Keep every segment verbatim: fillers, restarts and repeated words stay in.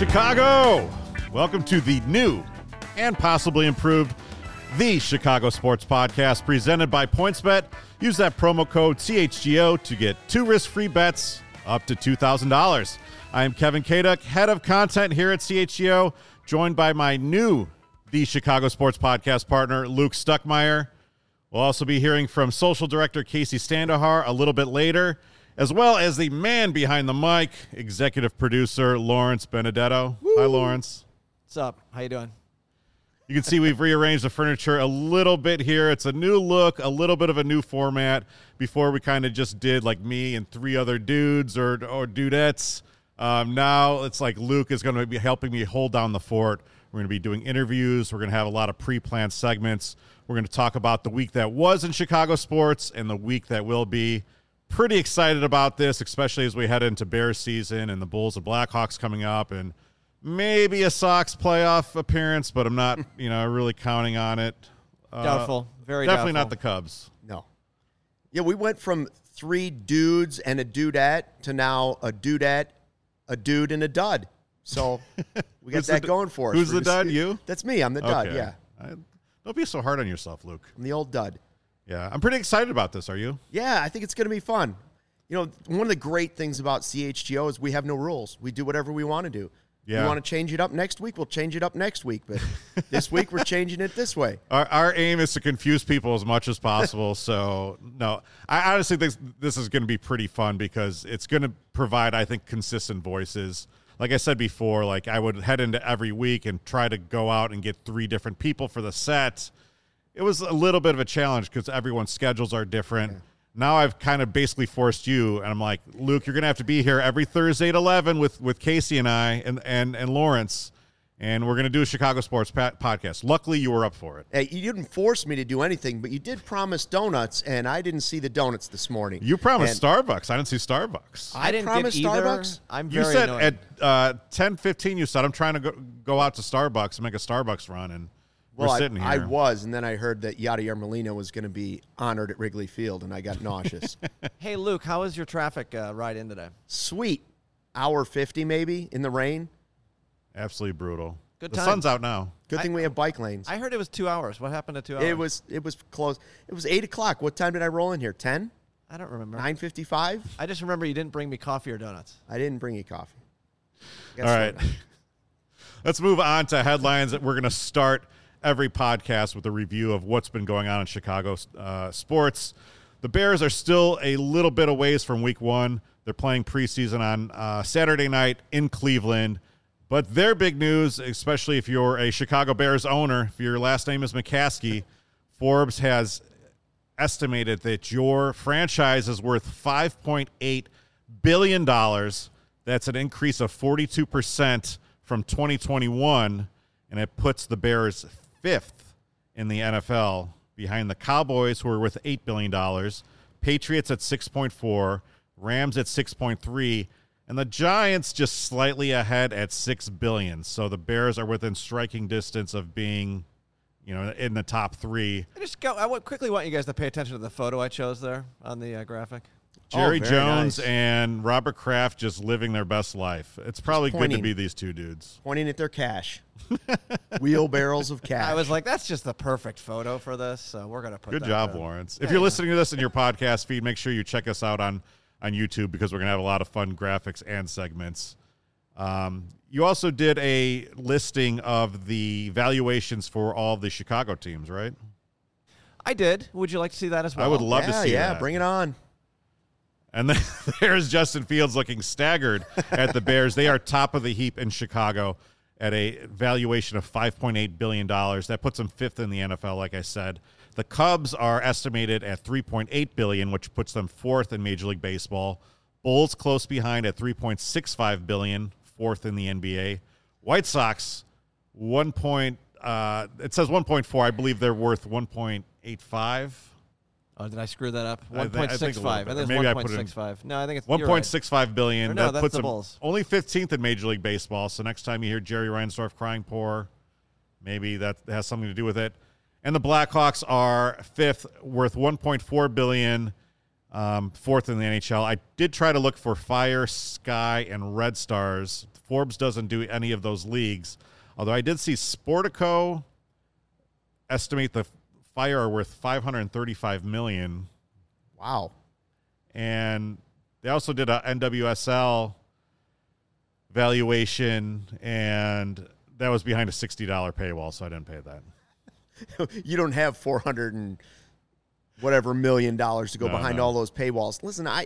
Chicago! Welcome to the new and possibly improved The Chicago Sports Podcast presented by PointsBet. Use that promo code C H G O to get two risk-free bets up to two thousand dollars. I am Kevin Kaduk, head of content here at C H G O, joined by my new The Chicago Sports Podcast partner, Luke Stuckmeyer. We'll also be hearing from social director Casey Standahar a little bit later, as well as the man behind the mic, executive producer Lawrence Benedetto. Woo. Hi, Lawrence. What's up? How you doing? You can see we've rearranged the furniture a little bit here. It's a new look, a little bit of a new format. Before we kind of just did like me and three other dudes or or dudettes. Um, now it's like Luke is going to be helping me hold down the fort. We're going to be doing interviews. We're going to have a lot of pre-planned segments. We're going to talk about the week that was in Chicago sports and the week that will be. Pretty excited about this, especially as we head into Bears season and the Bulls and Blackhawks coming up and maybe a Sox playoff appearance, but I'm not, you know, really counting on it. Uh, doubtful. Very definitely doubtful. not the Cubs. No. Yeah, we went from three dudes and a dudette to now a dudette, a dude, and a dud. So we got Who's that the, going for us. Who's We're the just- dud? You? That's me. I'm the dud, Okay. yeah. I, don't be so hard on yourself, Luke. I'm the old dud. Yeah, I'm pretty excited about this. Are you? Yeah, I think it's going to be fun. You know, one of the great things about C H G O is we have no rules. We do whatever we want to do. Yeah. We want to change it up next week, we'll change it up next week. But this week, we're changing it this way. Our, our aim is to confuse people as much as possible. So, no, I honestly think this is going to be pretty fun because it's going to provide, I think, consistent voices. Like I said before, like I would head into every week and try to go out and get three different people for the set. It was a little bit of a challenge because everyone's schedules are different. Yeah. Now I've kind of basically forced you, and I'm like, Luke, you're going to have to be here every Thursday at eleven with, with Casey and I and, and, and Lawrence, and we're going to do a Chicago Sports pa- podcast. Luckily, you were up for it. Hey, you didn't force me to do anything, but you did promise donuts, and I didn't see the donuts this morning. You promised and Starbucks. I didn't see Starbucks. I, I didn't promise get either. Starbucks. I'm You very said annoyed. at uh, ten fifteen, you said, I'm trying to go, go out to Starbucks and make a Starbucks run, and Well, we're I, sitting here. I was, and then I heard that Yadier Molina was going to be honored at Wrigley Field, and I got nauseous. Hey, Luke, how was your traffic uh, ride in today? Sweet. Hour fifty maybe in the rain. Absolutely brutal. Good the time. sun's out now. Good I- thing we have bike lanes. I heard it was two hours. What happened to two hours? It was it was close. It was eight o'clock. What time did I roll in here? ten? I don't remember. nine fifty-five? I just remember you didn't bring me coffee or donuts. I didn't bring you coffee. All right. Let's move on to headlines. That we're going to start every podcast with a review of what's been going on in Chicago uh, sports. The Bears are still a little bit a ways from week one. They're playing preseason on uh, Saturday night in Cleveland. But their big news, especially if you're a Chicago Bears owner, if your last name is McCaskey, Forbes has estimated that your franchise is worth five point eight billion dollars. That's an increase of forty-two percent from twenty twenty-one, and it puts the Bears fifth in the N F L, behind the Cowboys, who are worth eight billion dollars, Patriots at six point four, Rams at six point three, and the Giants just slightly ahead at six billion dollars. So the Bears are within striking distance of being, you know, in the top three. I just go. I would quickly want you guys to pay attention to the photo I chose there on the uh, graphic. Jerry Oh, very Jones nice. and Robert Kraft just living their best life. It's probably good to pointing. be these two dudes. Pointing at their cash. Wheelbarrows of cash. I was like, that's just the perfect photo for this. So we're gonna put. Good that job, there. Lawrence. Yeah, If you're yeah. listening to this in your podcast feed, make sure you check us out on, on YouTube because we're going to have a lot of fun graphics and segments. Um, you also did a listing of the valuations for all the Chicago teams, right? I did. Would you like to see that as well? I would love yeah, to see yeah, that. bring it on. And then there's Justin Fields looking staggered at the Bears. They are top of the heap in Chicago at a valuation of five point eight billion dollars. That puts them fifth in the N F L, like I said. The Cubs are estimated at three point eight billion dollars, which puts them fourth in Major League Baseball. Bulls close behind at three point six five billion dollars, fourth in the N B A. White Sox, one point, uh, it says one point four. I believe they're worth one point eight five. Oh, did I screw that up? I One think- I point think six a little five. I bit. think Maybe I it's put one it in- point six five. No, I think it's one you're point right. six five billion Or dollars. no, That that's puts the them Bulls. only fifteenth in Major League Baseball. So next time you hear Jerry Reinsdorf crying poor, maybe that has something to do with it. And the Blackhawks are fifth, worth one point four billion dollars. um, fourth in the N H L. I did try to look for Fire, Sky, and Red Stars. Forbes doesn't do any of those leagues, although I did see Sportico estimate the Fire are worth five hundred thirty-five million dollars. Wow. And they also did a N W S L valuation, and that was behind a sixty dollars paywall, so I didn't pay that. You don't have four hundred and whatever million dollars to go No, behind no. all those paywalls. Listen, I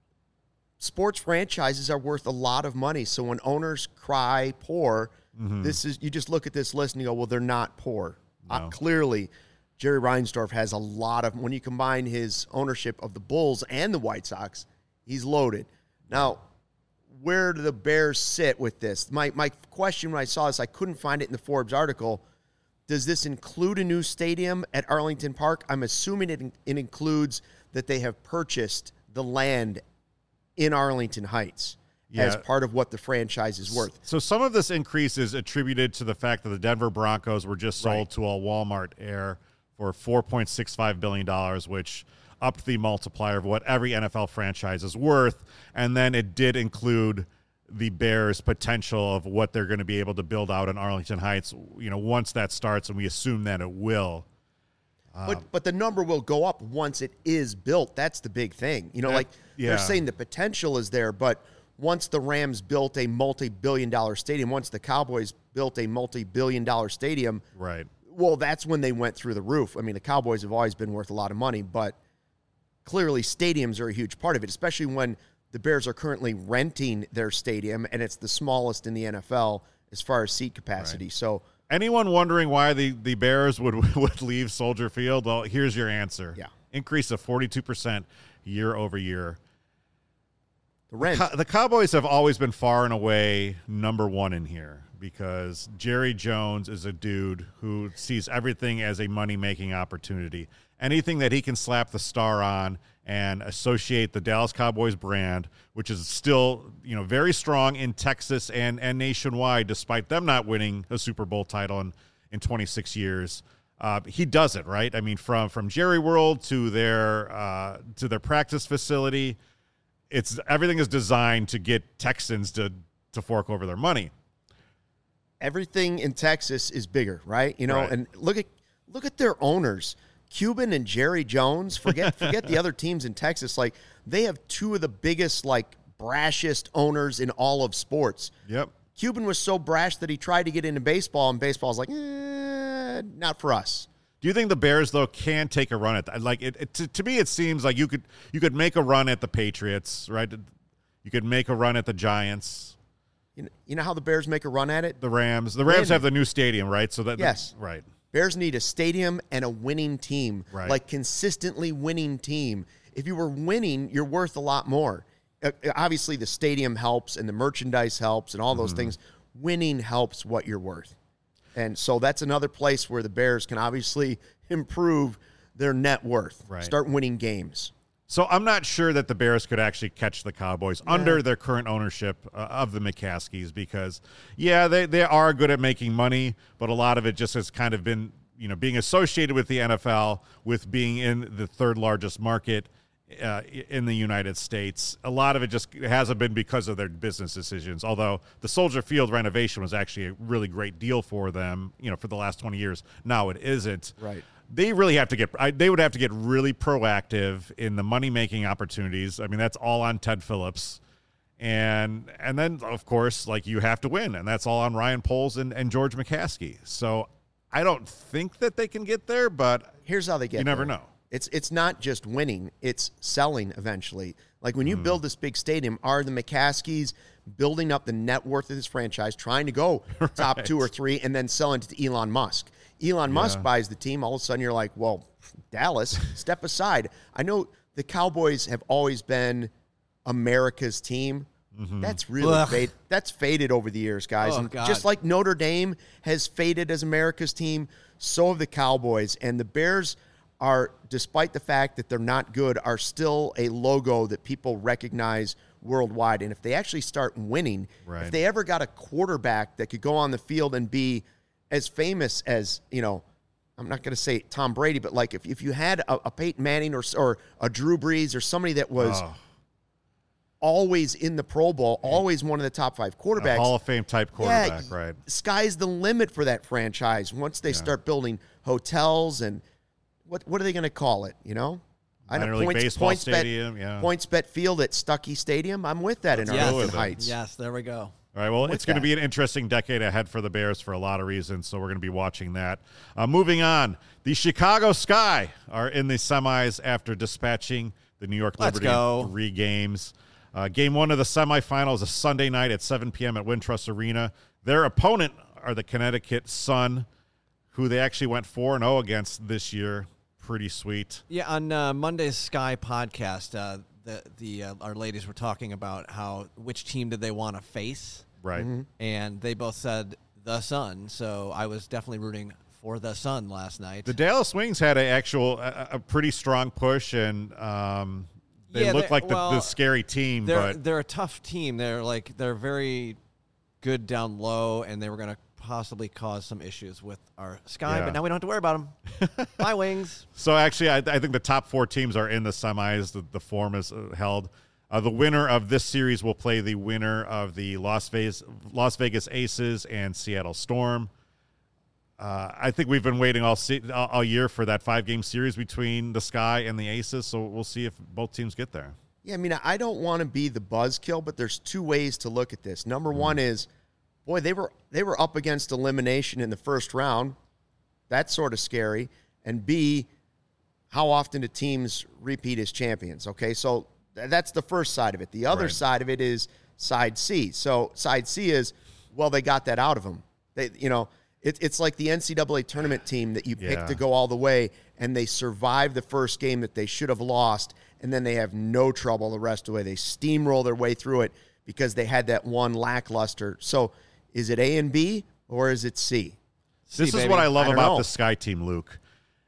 sports franchises are worth a lot of money. So when owners cry poor, Mm-hmm. this is you just look at this list and you go, well, they're not poor. Uh, No. clearly, Jerry Reinsdorf has a lot of, when you combine his ownership of the Bulls and the White Sox, he's loaded. Now, where do the Bears sit with this? My my question when I saw this, I couldn't find it in the Forbes article. Does this include a new stadium at Arlington Park? I'm assuming it, it includes that they have purchased the land in Arlington Heights as Yeah. part of what the franchise is worth. So some of this increase is attributed to the fact that the Denver Broncos were just sold Right. to a Walmart heir for four point six five billion dollars, which upped the multiplier of what every N F L franchise is worth. And then it did include the Bears' potential of what they're going to be able to build out in Arlington Heights, you know, once that starts, and we assume that it will. But but the number will go up once it is built. That's the big thing. You know, That- like yeah. they're saying the potential is there, but once the Rams built a multi-billion dollar stadium, once the Cowboys built a multi-billion dollar stadium, Right. well, that's when they went through the roof. I mean, the Cowboys have always been worth a lot of money, but clearly stadiums are a huge part of it, especially when the Bears are currently renting their stadium, and it's the smallest in the N F L as far as seat capacity. Right. So, Anyone wondering why the, the Bears would would leave Soldier Field? Well, here's your answer. Yeah. Increase of forty-two percent year over year. the rent. Co- the Cowboys have always been far and away number one in here because Jerry Jones is a dude who sees everything as a money-making opportunity. Anything that he can slap the star on and associate the Dallas Cowboys brand, which is still, you know, very strong in Texas and, and nationwide, despite them not winning a Super Bowl title in, in twenty-six years. Uh, he does it, right? I mean, from from Jerry World to their uh, to their practice facility, it's everything is designed to get Texans to to fork over their money. Everything in Texas is bigger, right? You know, Right. and look at look at their owners, Cuban and Jerry Jones. Forget forget the other teams in Texas. Like they have two of the biggest, like brashest owners in all of sports. Yep. Cuban was so brash that he tried to get into baseball, and baseball's like, eh, not for us. Do you think the Bears though can take a run at that? Like it, it to, to me, it seems like you could you could make a run at the Patriots, right? You could make a run at the Giants, You know, you know how the Bears make a run at it? the Rams. The Rams Win. have the new stadium, right? So that Yes. right. Bears need a stadium and a winning team, Right. like consistently winning team. If you were winning, you're worth a lot more. Uh, obviously, the stadium helps and the merchandise helps and all those Mm-hmm. things. Winning helps what you're worth. And so that's another place where the Bears can obviously improve their net worth. Right. Start winning games. So I'm not sure that the Bears could actually catch the Cowboys under their current ownership uh, of the McCaskies because, yeah, they, they are good at making money, but a lot of it just has kind of been, you know, being associated with the N F L, with being in the third largest market uh, in the United States. A lot of it just hasn't been because of their business decisions, although the Soldier Field renovation was actually a really great deal for them, you know, for the last twenty years. Now it isn't. Right. They really have to get I, they would have to get really proactive in the money-making opportunities. I mean, that's all on Ted Phillips. And and then, of course, like you have to win, and that's all on Ryan Poles and, and George McCaskey. So I don't think that they can get there, but Here's how they get you never there. know. It's it's not just winning, it's selling eventually. Like when you Hmm. build this big stadium, are the McCaskies building up the net worth of this franchise, trying to go top Right. two or three, and then selling it to Elon Musk? Elon Musk buys the team, all of a sudden you're like, well, Dallas, step aside. I know the Cowboys have always been America's team. Mm-hmm. That's really Ugh. fade, that's faded over the years, guys. Oh, and God. just like Notre Dame has faded as America's team, so have the Cowboys. And the Bears are, despite the fact that they're not good, are still a logo that people recognize worldwide. And if they actually start winning, Right. if they ever got a quarterback that could go on the field and be as famous as, you know, I'm not going to say Tom Brady, but like if, if you had a, a Peyton Manning or or a Drew Brees or somebody that was oh. always in the Pro Bowl, always one of the top five quarterbacks. A Hall of Fame type quarterback, yeah, right? Sky's the limit for that franchise once they yeah. start building hotels and what what are they going to call it, you know? I know points, baseball points stadium, bet, yeah. PointsBet Field at Stuckey Stadium. I'm with that in yes. Arlington Heights. Yes, there we go. All right, well, it's going to be an interesting decade ahead for the Bears for a lot of reasons, so we're going to be watching that. Uh, moving on, the Chicago Sky are in the semis after dispatching the New York Liberty in three games. Uh, game one of the semifinals is a Sunday night at seven p.m. at Wintrust Arena. Their opponent are the Connecticut Sun, who they actually went four and oh against this year. Pretty sweet. Yeah, on uh, Monday's Sky podcast, uh, the the uh, our ladies were talking about how which team did they want to face. Right. Mm-hmm. And they both said the Sun, so I was definitely rooting for the Sun last night. The Dallas Wings had a actual a, a pretty strong push, and um, they yeah, look like the, well, the scary team. They're but they're a tough team. They're like they're very good down low, and they were going to possibly cause some issues with our Sky, yeah. but now we don't have to worry about them. Bye, Wings. So actually, I, I think the top four teams are in the semis. The, the form is uh, held. Uh, the winner of this series will play the winner of the Las Vegas, Las Vegas Aces and Seattle Storm. Uh, I think we've been waiting all, se- all all year for that five-game series between the Sky and the Aces, so we'll see if both teams get there. Yeah, I mean, I don't want to be the buzzkill, but there's two ways to look at this. Number mm. one is, boy, they were they were up against elimination in the first round. That's sort of scary. And B, how often do teams repeat as champions? Okay, so that's the first side of it. The other right. side of it is side C. So side C is, well, they got that out of them. They, you know, it, it's like the N C double A tournament team that you pick yeah. to go all the way, and they survive the first game that they should have lost, and then they have no trouble the rest of the way. They steamroll their way through it because they had that one lackluster. So is it A and B, or is it C? This C, is baby. what I love I about know. the Sky team, Luke.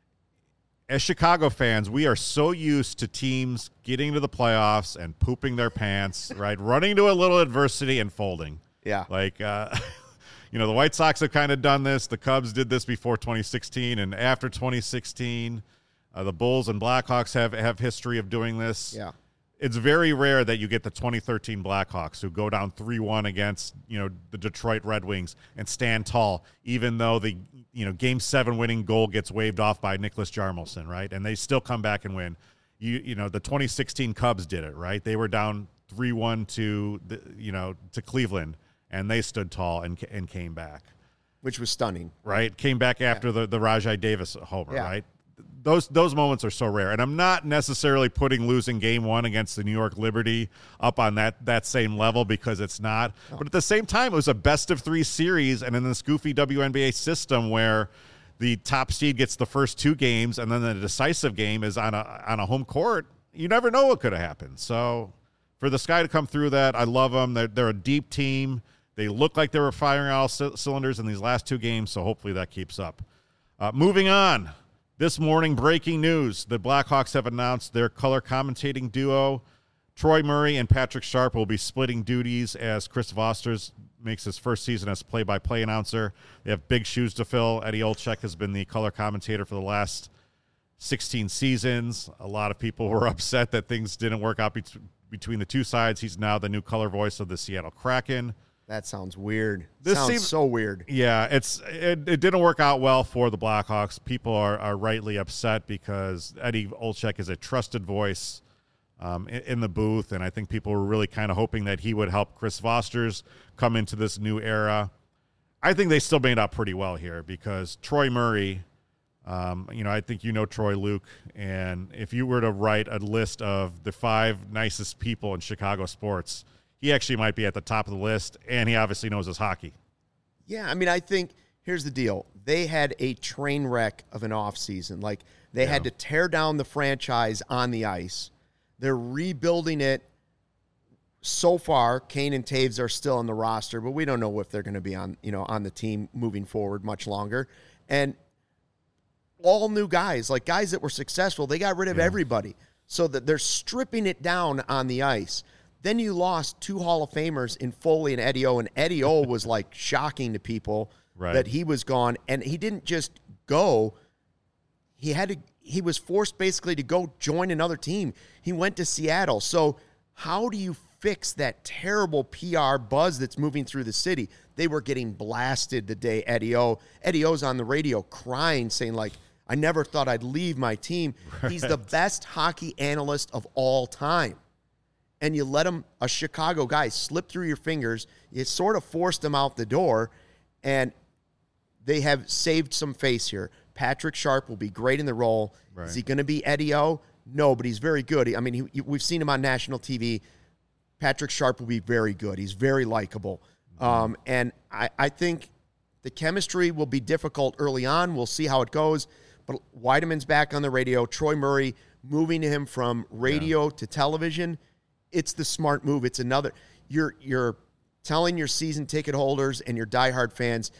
As Chicago fans, we are so used to teams getting to the playoffs and pooping their pants, right? Running to a little adversity and folding. Yeah. Like, uh, you know, the White Sox have kind of done this. The Cubs did this before twenty sixteen, and after twenty sixteen, uh, the Bulls and Blackhawks have, have history of doing this. Yeah. It's very rare that you get the twenty thirteen Blackhawks who go down three one against, you know, the Detroit Red Wings and stand tall, even though the, you know, game seven winning goal gets waved off by Nicholas Jarmelson, right? And they still come back and win. You you know, the twenty sixteen Cubs did it, right? They were down three one to, the, you know, to Cleveland, and they stood tall and and came back. Which was stunning. Right? Came back after yeah. the, the Rajai Davis homer, yeah. right? Those those moments are so rare, and I'm not necessarily putting losing game one against the New York Liberty up on that that same level because it's not. Oh. But at the same time, it was a best of three series, and in this goofy W N B A system where the top seed gets the first two games, and then the decisive game is on a on a home court. You never know what could have happened. So for the Sky to come through that, I love them. They're they're a deep team. They look like they were firing all c- cylinders in these last two games, so hopefully that keeps up. Uh, moving on. This morning, breaking news. The Blackhawks have announced their color commentating duo. Troy Murray and Patrick Sharp will be splitting duties as Chris Vosters makes his first season as play-by-play announcer. They have big shoes to fill. Eddie Olczyk has been the color commentator for the last sixteen seasons. A lot of people were upset that things didn't work out be- between the two sides. He's now the new color voice of the Seattle Kraken. That sounds weird. This sounds seems, so weird. Yeah, it's it, it didn't work out well for the Blackhawks. People are, are rightly upset because Eddie Olczyk is a trusted voice um, in, in the booth, and I think people were really kind of hoping that he would help Chris Vosters come into this new era. I think they still made out pretty well here because Troy Murray, um, you know, I think you know Troy, Luke, and if you were to write a list of the five nicest people in Chicago sports, he actually might be at the top of the list, and he obviously knows his hockey. Yeah, I mean, I think here's the deal. They had a train wreck of an offseason. Like, they yeah. had to tear down the franchise on the ice. They're rebuilding it so far. Kane and Taves are still on the roster, but we don't know if they're going to be on, you know, on the team moving forward much longer. And all new guys, like guys that were successful, they got rid of yeah. everybody. So that they're stripping it down on the ice. Then you lost two Hall of Famers in Foley and Eddie O, and Eddie O was like shocking to people right. that he was gone. And he didn't just go. he had to he was forced basically to go join another team. He went to Seattle. So how do you fix that terrible P R buzz that's moving through the city? They were getting blasted the day Eddie O. Eddie O's on the radio crying, saying, like, I never thought I'd leave my team. Right. He's the best hockey analyst of all time. And you let him, a Chicago guy, slip through your fingers. You sort of forced him out the door, and they have saved some face here. Patrick Sharp will be great in the role. Right. Is he going to be Eddie O? No, but he's very good. I mean, he, we've seen him on national T V. Patrick Sharp will be very good. He's very likable. Mm-hmm. Um, and I, I think the chemistry will be difficult early on. We'll see how it goes. But Weideman's back on the radio. Troy Murray moving to him from radio yeah. to television. It's the smart move. It's another. You're you're telling your season ticket holders and your diehard fans,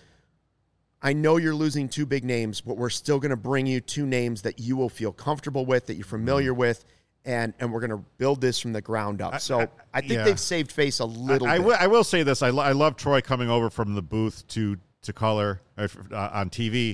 I know you're losing two big names, but we're still going to bring you two names that you will feel comfortable with, that you're familiar mm-hmm. with, and and we're going to build this from the ground up. So I, I, I think yeah. they've saved face a little I, I bit. Will, I will say this. I, lo- I love Troy coming over from the booth to, to color uh, on T V.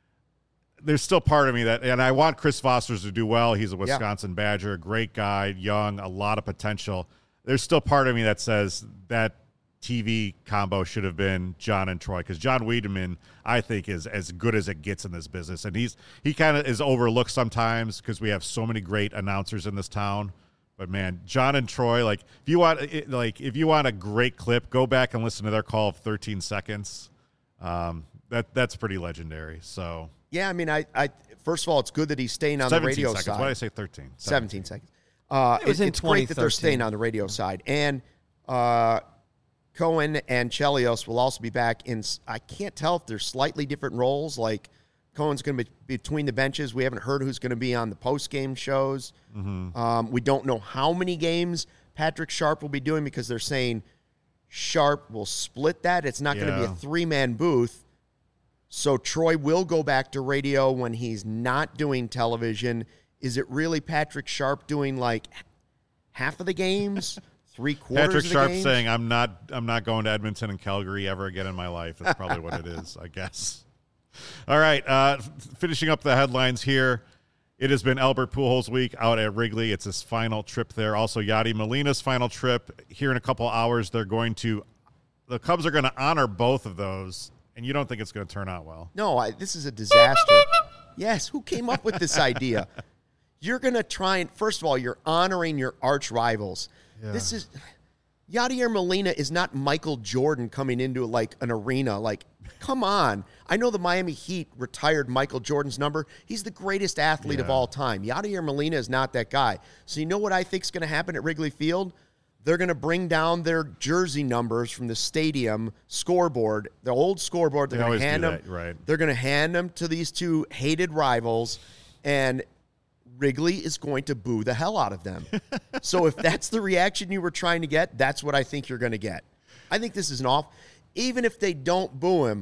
There's still part of me that, and I want Chris Fosters to do well. He's a Wisconsin yeah. Badger, a great guy, young, a lot of potential. There's still part of me that says that T V combo should have been John and Troy, because John Wiedemann, I think, is as good as it gets in this business, and he's he kind of is overlooked sometimes because we have so many great announcers in this town. But man, John and Troy, like if you want, like if you want a great clip, go back and listen to their call of thirteen seconds. Um, that that's pretty legendary. So yeah, I mean, I, I first of all, it's good that he's staying on the radio seconds. side. Why did I say thirteen? seventeen, seventeen seconds. Uh, it was it, in it's great that they're staying on the radio side, and uh. Cohen and Chelios will also be back in. I can't tell if they're slightly different roles. Like Cohen's going to be between the benches. We haven't heard who's going to be on the post-game shows. Mm-hmm. Um, we don't know how many games Patrick Sharp will be doing because they're saying Sharp will split that. It's not yeah. going to be a three-man booth. So Troy will go back to radio when he's not doing television. Is it really Patrick Sharp doing like half of the games? Three quarters Patrick of the Sharp games? saying, I'm not I'm not going to Edmonton and Calgary ever again in my life. That's probably what it is, I guess. All right, uh, f- finishing up the headlines here. It has been Albert Pujols week out at Wrigley. It's his final trip there. Also, Yadi Molina's final trip. Here in a couple hours, they're going to – the Cubs are going to honor both of those, and you don't think it's going to turn out well. No, I, this is a disaster. Yes, who came up with this idea? You're going to try and – first of all, you're honoring your arch rivals. Yeah. This is Yadier Molina is not Michael Jordan coming into like an arena. Like, come on. I know the Miami Heat retired Michael Jordan's number. He's the greatest athlete yeah. of all time. Yadier Molina is not that guy. So you know what I think is going to happen at Wrigley Field? They're going to bring down their jersey numbers from the stadium scoreboard, the old scoreboard. They're going to hand them. Right. They're going to hand them to these two hated rivals, and Wrigley is going to boo the hell out of them. So if that's the reaction you were trying to get, that's what I think you're going to get. I think this is an off. Even if they don't boo him,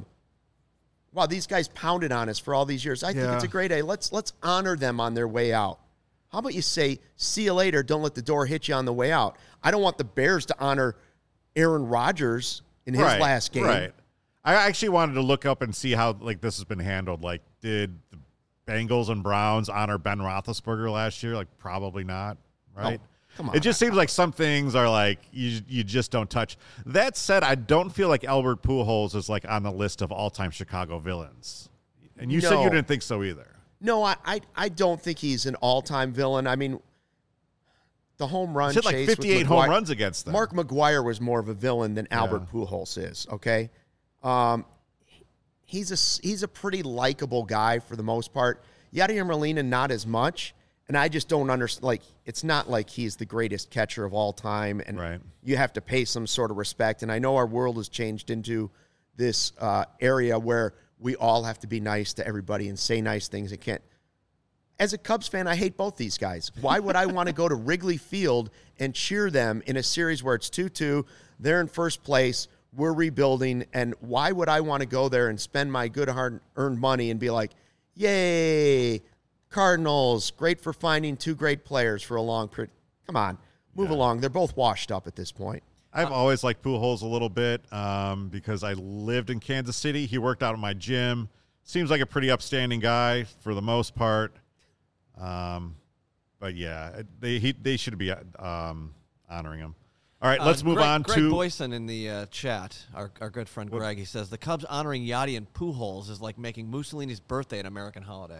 wow, these guys pounded on us for all these years. I yeah. think it's a great day. Let's let's honor them on their way out. How about you say, see you later, don't let the door hit you on the way out. I don't want the Bears to honor Aaron Rodgers in his right, last game. Right. I actually wanted to look up and see how like this has been handled. Like, did the Bengals and Browns honor Ben Roethlisberger last year? Like, probably not, right? Oh, come on. It just seems like some things are like you you just don't touch. That said, I don't feel like Albert Pujols is like on the list of all-time Chicago villains. And you no. said you didn't think so either. No, I, I I don't think he's an all-time villain. I mean, the home run he hit like chase fifty-eight with home runs against them. Mark McGwire was more of a villain than Albert yeah. Pujols is. Okay, um, he's a he's a pretty likable guy for the most part. Yadier Molina, not as much, and I just don't understand. Like, it's not like he's the greatest catcher of all time, and right. you have to pay some sort of respect. And I know our world has changed into this uh, area where we all have to be nice to everybody and say nice things. And can't. As a Cubs fan, I hate both these guys. Why would I want to go to Wrigley Field and cheer them in a series where it's two two, they're in first place, we're rebuilding, and why would I want to go there and spend my good hard-earned money and be like, yay, Cardinals, great for finding two great players for a long period. Come on, move yeah. along. They're both washed up at this point. I've always liked Pujols a little bit um, because I lived in Kansas City. He worked out at my gym. seems like a pretty upstanding guy for the most part. Um, but yeah, they he, they should be um, honoring him. All right, let's uh, move Greg, on Greg to Boyson in the uh, chat. Our our good friend what? Greg. He says the Cubs honoring Yachty and Pujols is like making Mussolini's birthday an American holiday.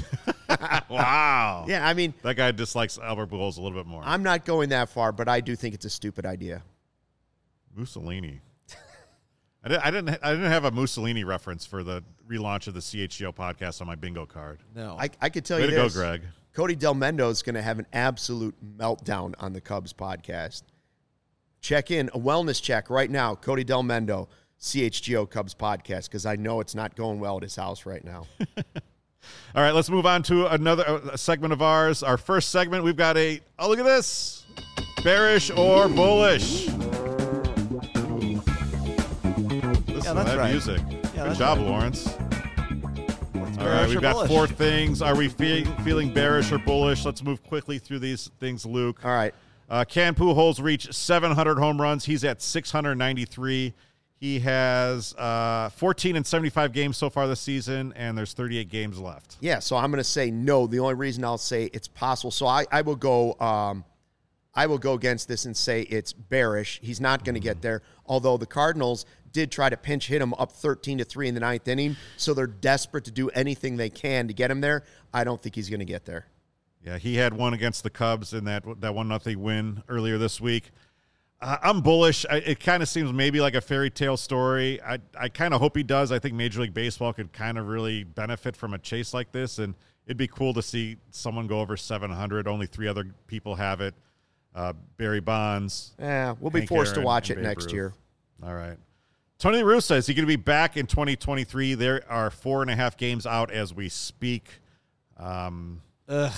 Wow. Yeah, I mean, that guy dislikes Albert Pujols a little bit more. I'm not going that far, but I do think it's a stupid idea. Mussolini. I, did, I didn't. I didn't have a Mussolini reference for the relaunch of the C H G O podcast on my bingo card. No, I, I could tell Way you to this. go, Greg. Cody Del Mendo is going to have an absolute meltdown on the Cubs podcast. Check in, a wellness check right now. Cody Del Mendo, C H G O Cubs podcast, because I know it's not going well at his house right now. All right, let's move on to another uh, segment of ours. Our first segment, we've got a, oh, look at this. Bearish or bullish? Listen Yeah, to that's that right. music. Yeah, Good that's job, right. Lawrence. All right, bearish we've or got bullish? four things. Are we fe- feeling bearish or bullish? Let's move quickly through these things, Luke. All right. Uh, Can Pujols reached seven hundred home runs. He's at six hundred ninety-three. He has uh, fourteen and seventy-five games so far this season, and there's thirty-eight games left. Yeah, so I'm going to say no. The only reason I'll say it's possible, so I, I will go um, I will go against this and say it's bearish. He's not going to get there, although the Cardinals did try to pinch hit him up thirteen to three in the ninth inning, so they're desperate to do anything they can to get him there. I don't think he's going to get there. Yeah, he had one against the Cubs in that that one nothing win earlier this week. Uh, I'm bullish. I, it kind of seems maybe like a fairy tale story. I I kind of hope he does. I think Major League Baseball could kind of really benefit from a chase like this, and it'd be cool to see someone go over seven hundred. Only three other people have it. Uh, Barry Bonds. Yeah, we'll be Hank forced Aaron, to watch and it Babe next Ruth. year. All right. Tony La Russa, is he going to be back in twenty twenty-three? There are four and a half games out as we speak. Um, Ugh.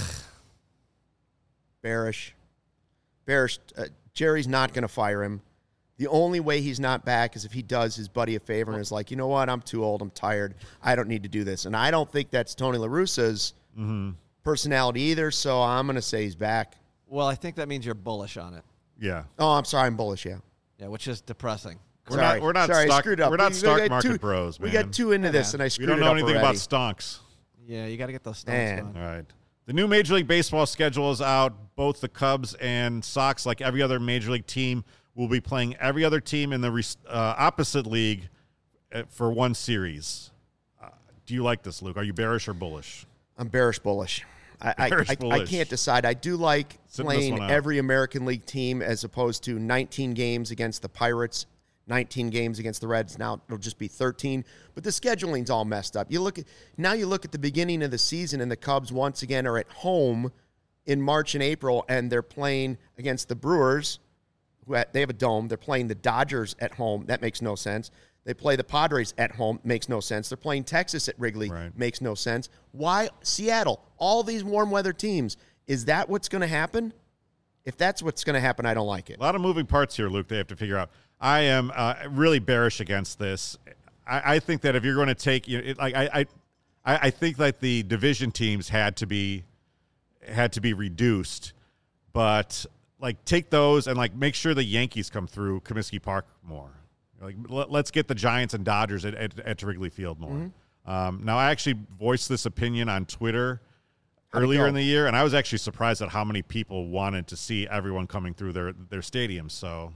Bearish. Bearish. Uh, Jerry's not going to fire him. The only way he's not back is if he does his buddy a favor and is like, you know what, I'm too old, I'm tired, I don't need to do this. And I don't think that's Tony La Russa's mm-hmm. personality either, so I'm going to say he's back. Well, I think that means you're bullish on it. Yeah. Oh, I'm sorry, I'm bullish, yeah. Yeah, which is depressing. We're Sorry. not. We're not. Sorry, I stock, screwed up. We're not We- we stock got market too- bros, man. We got too into Hey, this, man. and I We screwed don't it know up anything already. about stonks. Yeah, you got to get those stonks Man. going. All right. The new Major League Baseball schedule is out. Both the Cubs and Sox, like every other Major League team, will be playing every other team in the uh, opposite league for one series. Uh, do you like this, Luke? Are you bearish or bullish? I'm bearish bullish. I, Bearish I, I, bullish. I can't decide. I do like Sitting this playing one out. every American League team as opposed to nineteen games against the Pirates, nineteen games against the Reds. Now it'll just be thirteen. But the scheduling's all messed up. You look at now. You look at the beginning of the season, and the Cubs once again are at home in March and April, and they're playing against the Brewers. Who ha- they have a dome. They're playing the Dodgers at home. That makes no sense. They play the Padres at home. Makes no sense. They're playing Texas at Wrigley. Right. Makes no sense. Why Seattle? All these warm weather teams. Is that what's going to happen? If that's what's going to happen, I don't like it. A lot of moving parts here, Luke. They have to figure out. I am uh, really bearish against this. I, I think that if you're going to take, you know, it, like I, I, I think that the division teams had to be had to be reduced, but like take those and like make sure the Yankees come through Comiskey Park more. Like let, let's get the Giants and Dodgers at, at, at Wrigley Field more. Mm-hmm. Um, now I actually voiced this opinion on Twitter How'd it earlier go? in the year, and I was actually surprised at how many people wanted to see everyone coming through their their stadiums. So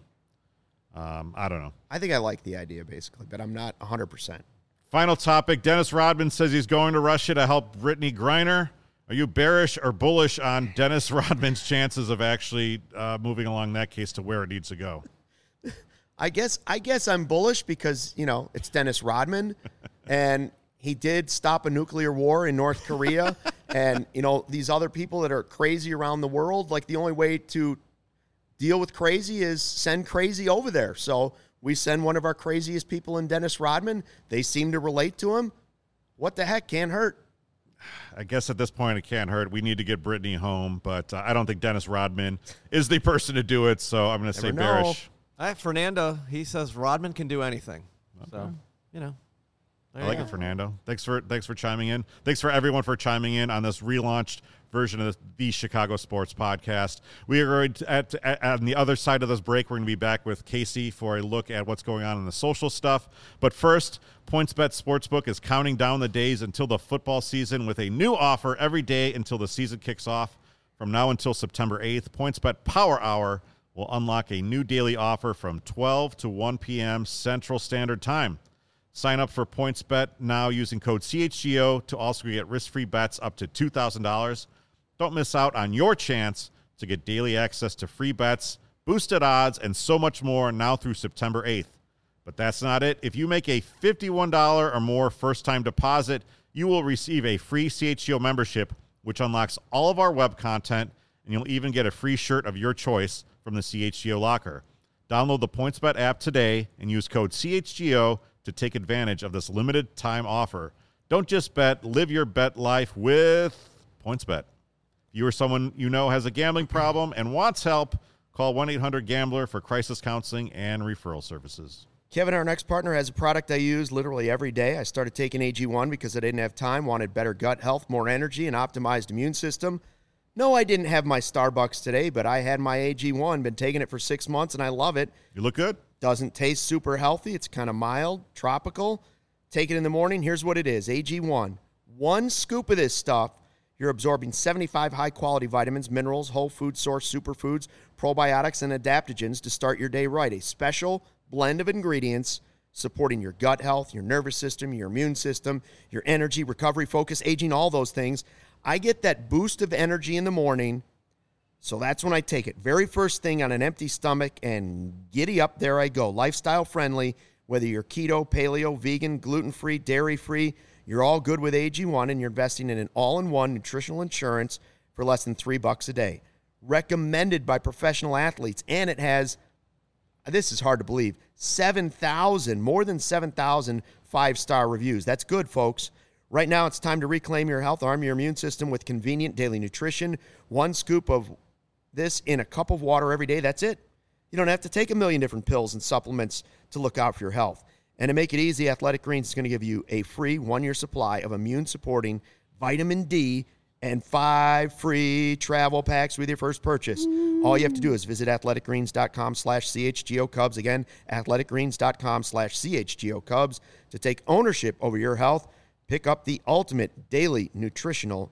um, I don't know. I think I like the idea basically, but I'm not one hundred percent. Final topic. Dennis Rodman says he's going to Russia to help Brittany Griner. Are you bearish or bullish on Dennis Rodman's chances of actually uh, moving along that case to where it needs to go? I guess I guess I'm bullish because, you know, it's Dennis Rodman and he did stop a nuclear war in North Korea. And, you know, these other people that are crazy around the world, like the only way to deal with crazy is send crazy over there. So we send one of our craziest people in Dennis Rodman. They seem to relate to him. What the heck? Can't hurt. I guess at this point it can't hurt. We need to get Brittany home, but uh, I don't think Dennis Rodman is the person to do it. So I'm going to say Never know. bearish. All right, Fernando, he says Rodman can do anything. So, you know. there I you like go. it, Fernando. Thanks for thanks for chiming in. Thanks for everyone for chiming in on this relaunched version of the, the Chicago Sports Podcast. We are going to, at, at, on the other side of this break, we're going to be back with Casey for a look at what's going on in the social stuff. But first, PointsBet Sportsbook is counting down the days until the football season with a new offer every day until the season kicks off. From now until September eighth, PointsBet Power Hour will unlock a new daily offer from twelve to one p.m. Central Standard Time. Sign up for PointsBet now using code C H G O to also get risk-free bets up to two thousand dollars. Don't miss out on your chance to get daily access to free bets, boosted odds, and so much more now through September eighth. But that's not it. If you make a fifty-one dollars or more first-time deposit, you will receive a free C H G O membership, which unlocks all of our web content, and you'll even get a free shirt of your choice from the C H G O locker. Download the PointsBet app today and use code C H G O to take advantage of this limited time offer. Don't just bet, live your bet life with PointsBet. If you or someone you know has a gambling problem and wants help, call one eight hundred gambler for crisis counseling and referral services. Kevin, our next partner, has a product I use literally every day. I started taking A G one because I didn't have time, wanted better gut health, more energy, and optimized immune system. No, I didn't have my Starbucks today, but I had my A G one, been taking it for six months, and I love it. You look good. Doesn't taste super healthy. It's kind of mild, tropical. Take it in the morning. Here's what it is, A G one. One scoop of this stuff, you're absorbing seventy-five high-quality vitamins, minerals, whole food source superfoods, probiotics, and adaptogens to start your day right. A special blend of ingredients supporting your gut health, your nervous system, your immune system, your energy, recovery, focus, aging, all those things. I get that boost of energy in the morning, so that's when I take it. Very first thing on an empty stomach, and giddy up, there I go. Lifestyle friendly, whether you're keto, paleo, vegan, gluten-free, dairy-free, you're all good with A G one, and you're investing in an all-in-one nutritional insurance for less than three bucks a day. Recommended by professional athletes, and it has, this is hard to believe, seven thousand, more than seven thousand five-star reviews. That's good, folks. Right now, it's time to reclaim your health, arm your immune system with convenient daily nutrition. One scoop of this in a cup of water every day, that's it. You don't have to take a million different pills and supplements to look out for your health. And to make it easy, Athletic Greens is going to give you a free one-year supply of immune-supporting vitamin D and five free travel packs with your first purchase. Mm. All you have to do is visit athleticgreens.com slash CHGO Cubs. Again, athleticgreens.com slash CHGO Cubs to take ownership over your health. Pick up the ultimate daily nutritional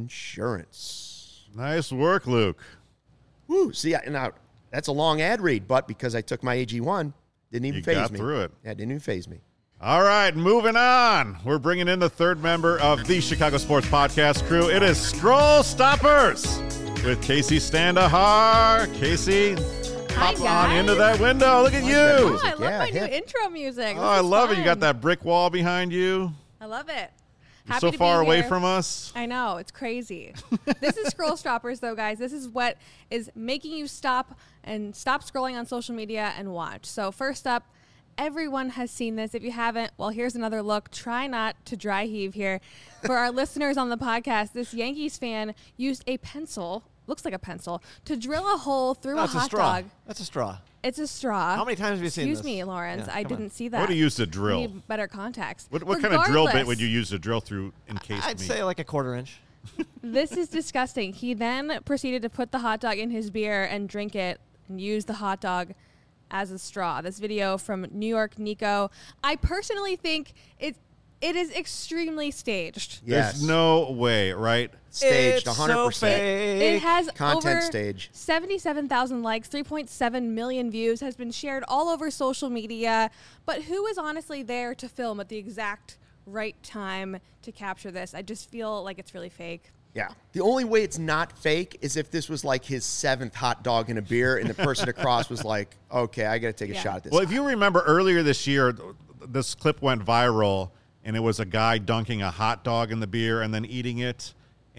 insurance. Nice work, Luke. Woo, see, I, now, that's a long ad read, but because I took my A G one, didn't even you phase got me. through it. Yeah, didn't even phase me. All right, moving on. We're bringing in the third member of the Chicago Sports Podcast crew. It is Scroll Stoppers with Casey Standahar. Casey, Hi, hop guys. on into that window. Look at you. Oh, I love Yeah, my hip. new intro music. Oh, This I is love it. You fun. got that brick wall behind you. I love it. You're Happy so to far be away here. from us. I know, it's crazy. This is Scroll Stoppers, though, guys. This is what is making you stop and stop scrolling on social media and watch. So first up, everyone has seen this. If you haven't, well, here's another look. Try not to dry heave here. For our listeners on the podcast, this Yankees fan used a pencil, looks like a pencil, to drill a hole through That's a a hot straw. dog. That's a straw. It's a straw. How many times have you seen Excuse this? me, Lawrence. Yeah, I come on. didn't see that. What do you use to drill? We need better context. What, what kind of drill bit Regardless, would you use to drill through encased I'd meat? say like a quarter inch. This is disgusting. He then proceeded to put the hot dog in his beer and drink it and use the hot dog as a straw. This video from New York Nico. I personally think it it is extremely staged. Yes. There's no way, right? Staged, It's one hundred percent. so fake. It has Content over stage. seventy-seven thousand likes, three point seven million views, has been shared all over social media. But who is honestly there to film at the exact right time to capture this? I just feel like it's really fake. Yeah. The only way it's not fake is if this was like his seventh hot dog in a beer and the person across was like, okay, I got to take a Yeah. shot at this. Well, if you remember earlier this year, th- this clip went viral, and it was a guy dunking a hot dog in the beer and then eating it.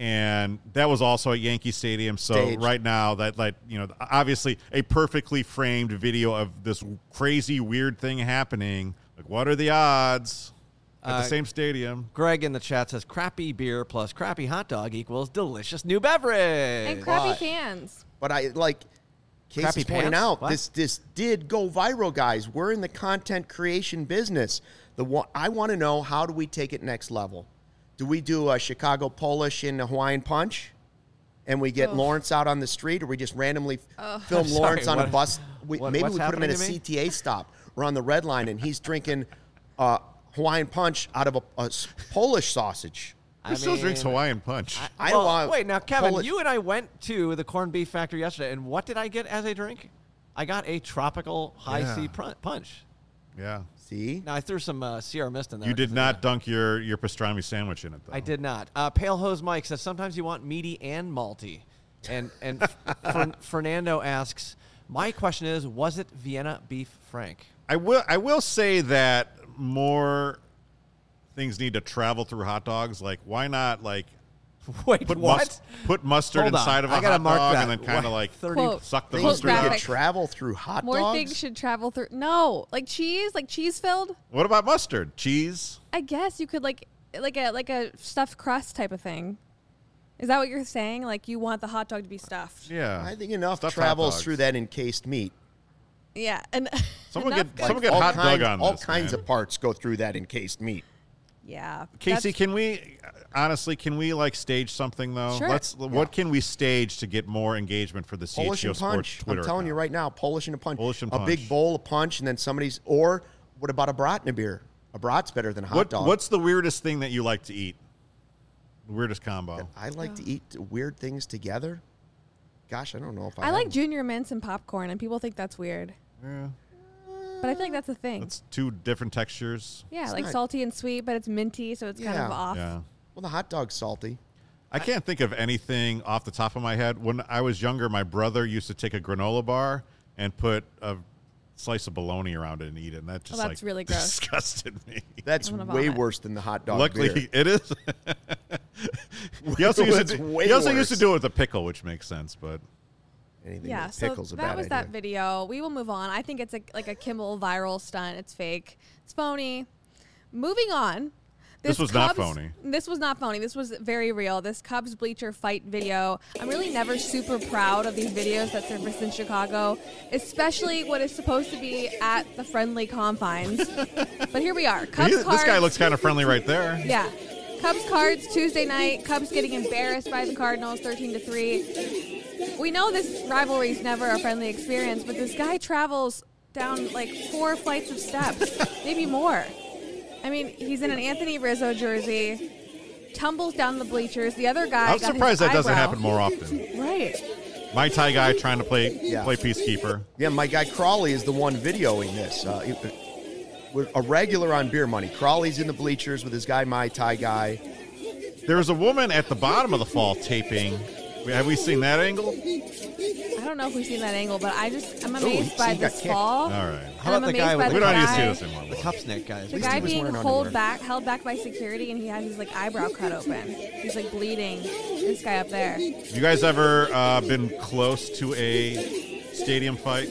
And that was also at Yankee Stadium. So Staged. right now, that like you know, obviously a perfectly framed video of this crazy weird thing happening. Like, what are the odds at Uh, the same stadium? Greg in the chat says crappy beer plus crappy hot dog equals delicious new beverage. And crappy But- fans. But I like Casey's Crappy pointing pants? out What? this this did go viral, guys. We're in the content creation business. The one, I want to know, how do we take it next level? Do we do a Chicago Polish and a Hawaiian Punch? and we get Ugh. Lawrence out on the street, or we just randomly Oh, film I'm sorry, Lawrence on what- a bus. We, what- maybe what's we put him in a happening to me? C T A stop. We're on the red line, and he's drinking uh, Hawaiian Punch out of a, a s- Polish sausage. Who I still drinks mean, Hawaiian Punch? I well, don't want. Wait, now, Kevin, Polish- you and I went to the corned beef factory yesterday, and what did I get as a drink? I got a tropical high Yeah. C pr- punch. yeah. See, Now, I threw some uh, Sierra Mist in there. You did 'cause not of dunk your, your pastrami sandwich in it, though. that. I did not. Uh, Pale Hose Mike says sometimes you want meaty and malty. And and Fer- Fernando asks, my question is, was it Vienna beef Frank? I will I will say that more things need to travel through hot dogs. Like, why not, like, Wait, put, what? mus- put mustard Hold on. inside of a I gotta hot mark dog that. and then kind of What? like thirty Quote. suck the Quote mustard out? graphic. travel through hot More dogs. things should travel through. No, like cheese, like cheese filled. What about mustard? Cheese? I guess you could like like a like a stuffed crust type of thing. Is that what you're saying? Like you want the hot dog to be stuffed? Yeah. I think enough Stuffed hot travels dogs. through that encased meat. Yeah, and Someone enough get- goes- someone get all hot kinds, dog on all this, kinds man. of parts go through that encased meat. yeah. Casey, that's- can we honestly can we like stage something though? Sure. Let's what can we stage to get more engagement for the Polish C H G O and Sports punch. Twitter I'm telling you account? right now, Polish and a punch. Polish and a big punch. bowl of punch, and then somebody's. Or what about a brat and a beer? A brat's better than a hot What dog. what's the weirdest thing that you like to eat? The weirdest combo. I like to eat weird things together. Gosh, I don't know if I. I have like them. junior mints and popcorn, and people think that's weird, Yeah. but I feel like that's a thing. That's two different textures. yeah, it's like not- salty and sweet, but it's minty, so it's kind of Yeah. off. Yeah. Well, the hot dog's salty. I can't think of anything off the top of my head. When I was younger, my brother used to take a granola bar and put a slice of bologna around it and eat it, and that just that's like really gross. disgusted me. That's I'm gonna way vomit. worse than the hot dog. Luckily, beer. it is. he also used It's to, way he also used to worse. do it with a pickle, which makes sense. But Anything Yeah, with so pickles a that bad was idea. that video. We will move on. I think it's a, like a Kimmel viral stunt. It's fake. It's phony. Moving on. This was not Cubs- phony. This was not phony. This was very real. This Cubs bleacher fight video. I'm really never super proud of these videos that surface in Chicago, especially what is supposed to be at the friendly confines. But here we are. Cubs he- this Cards. guy looks kind of friendly right there. Yeah. Cubs Cards Tuesday night. Cubs getting embarrassed by the Cardinals thirteen to three. We know this rivalry is never a friendly experience, but this guy travels down like four flights of steps, maybe more. I mean, he's in an Anthony Rizzo jersey, tumbles down the bleachers. The other guy I'm got surprised his that doesn't eyebrow- happen more often. Right. My Thai guy trying to play Yeah. play peacekeeper. Yeah, my guy Crawley is the one videoing this. Uh, he- we're a regular on Beer Money. Crawley's in the bleachers with his guy, my Thai guy. There was a woman at the bottom of the fall taping. Have we seen that angle? I don't know if we've seen that angle, but I just I'm Ooh, amazed he- by he got this kicked. fall. All right. How And about I'm the guy amazed with by the We the don't need to guy- see this anymore. The Cupsnake guy. At The least guy he was being wearing hold underwear. back, held back by security, and he has his like eyebrow cut open. He's like bleeding. This guy up there. You guys ever uh, been close to a stadium fight?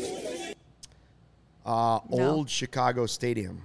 Uh, No. Old Chicago Stadium.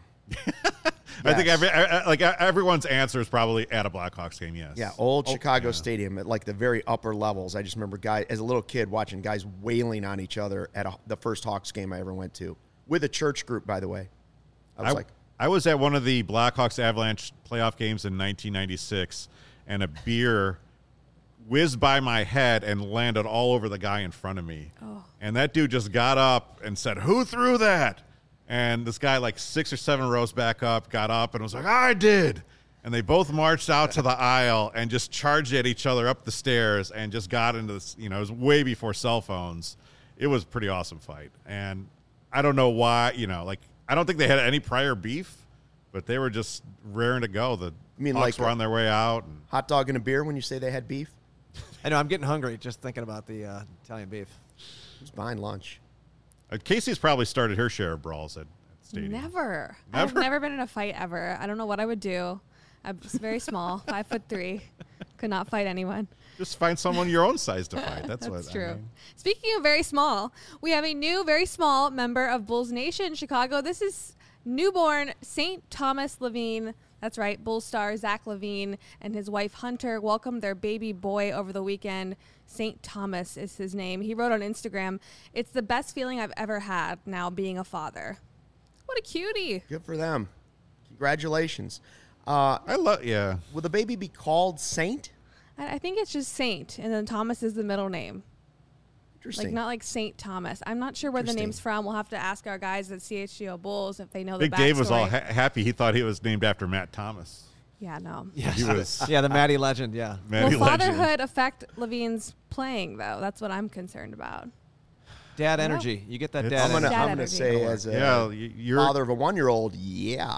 I think Yes. every, I- I- like everyone's answer is probably at a Blackhawks game. Yes. Yeah, old Oh, Chicago yeah. Stadium at like the very upper levels. I just remember guy as a little kid watching guys wailing on each other at a, the first Hawks game I ever went to with a church group. By the way, I was I, like, I was at one of the Blackhawks Avalanche playoff games in nineteen ninety-six, and a beer whizzed by my head and landed all over the guy in front of me. Oh. And that dude just got up and said, "Who threw that?" And this guy, like six or seven rows back up, got up and was like, "I did." And they both marched out to the aisle and just charged at each other up the stairs and just got into this. You know, it was way before cell phones. It was a pretty awesome fight. And I don't know why, you know, like, I don't think they had any prior beef, but they were just raring to go. The You mean Hawks like were a- on their way out. And hot dog and a beer when you say they had beef. I know, I'm getting hungry just thinking about the uh, Italian beef. Who's buying lunch? uh, Casey's probably started her share of brawls at, at stadium. Never. I've Never? never been in a fight ever. I don't know what I would do. I'm just very small, five foot three. Could not fight anyone. Just find someone your own size to fight. That's, That's what true. I mean. Speaking of very small, we have a new, very small member of Bulls Nation Chicago. This is newborn Saint Thomas Levine. That's right, Bulls star Zach Levine and his wife Hunter welcomed their baby boy over the weekend. Saint Thomas is his name. He wrote on Instagram, "It's the best feeling I've ever had now being a father." What a cutie. Good for them. Congratulations. Uh, I love, yeah. will the baby be called Saint? I, I think it's just Saint, and then Thomas is the middle name. Interesting. Like not like Saint Thomas. I'm not sure where the Interesting. name's from. We'll have to ask our guys at C H G O Bulls if they know Big the backstory. Dave was all ha- happy. He thought he was named after Matt Thomas. Yeah, no. Yes. He was yeah, the Maddie legend. Yeah. Matty Will Legend. fatherhood affect Levine's playing though? That's what I'm concerned about. Dad energy. You get that It's- dad I'm gonna, energy. Dad I'm gonna energy. say as a Yeah, y- you're. father of a one-year-old, yeah.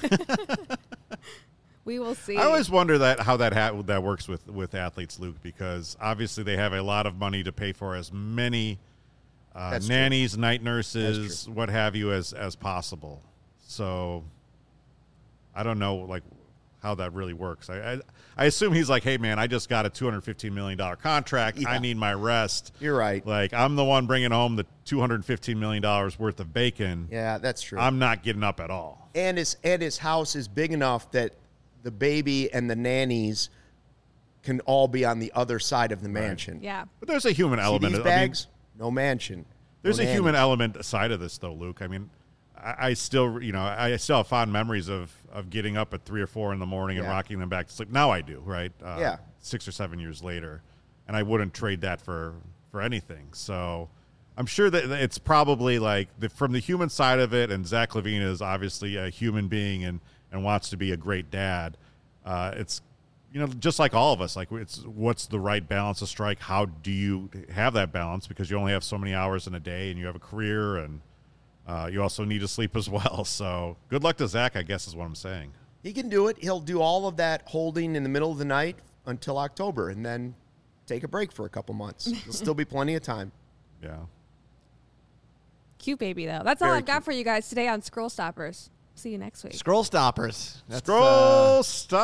We will see. I always wonder that how that ha- that works with with athletes, Luke, because obviously they have a lot of money to pay for as many uh, That's true. nannies, night nurses, what have you, as as possible. So I don't know, like how that really works. I I, I assume he's like, hey man, I just got a two hundred fifteen million dollar contract. Yeah. I need my rest. You're right. Like I'm the one bringing home the two hundred fifteen million dollars worth of bacon. Yeah, that's true. I'm not getting up at all. and his and his house is big enough that the baby and the nannies can all be on the other side of the mansion. Yeah. But there's a human See element. these I mean, bags? No mansion. There's no a human nannies. element aside of this, though, Luke. I mean, I, I still, you know, I still have fond memories of of getting up at three or four in the morning and Yeah. rocking them back to sleep. Now I do, right? Uh, Yeah. Six or seven years later, and I wouldn't trade that for for anything. So I'm sure that it's probably like the, from the human side of it. And Zach LaVine is obviously a human being and and wants to be a great dad. Uh, it's you know, just like all of us, like it's what's the right balance to strike? How do you have that balance? Because you only have so many hours in a day, and you have a career, and uh, you also need to sleep as well. So good luck to Zach, I guess is what I'm saying. He can do it. He'll do all of that holding in the middle of the night until October and then take a break for a couple months. There'll still be plenty of time. Yeah. Cute baby though. That's all Very I've got cute. for you guys today on Scroll Stoppers. See you next week. Scroll stoppers. That's, Scroll uh,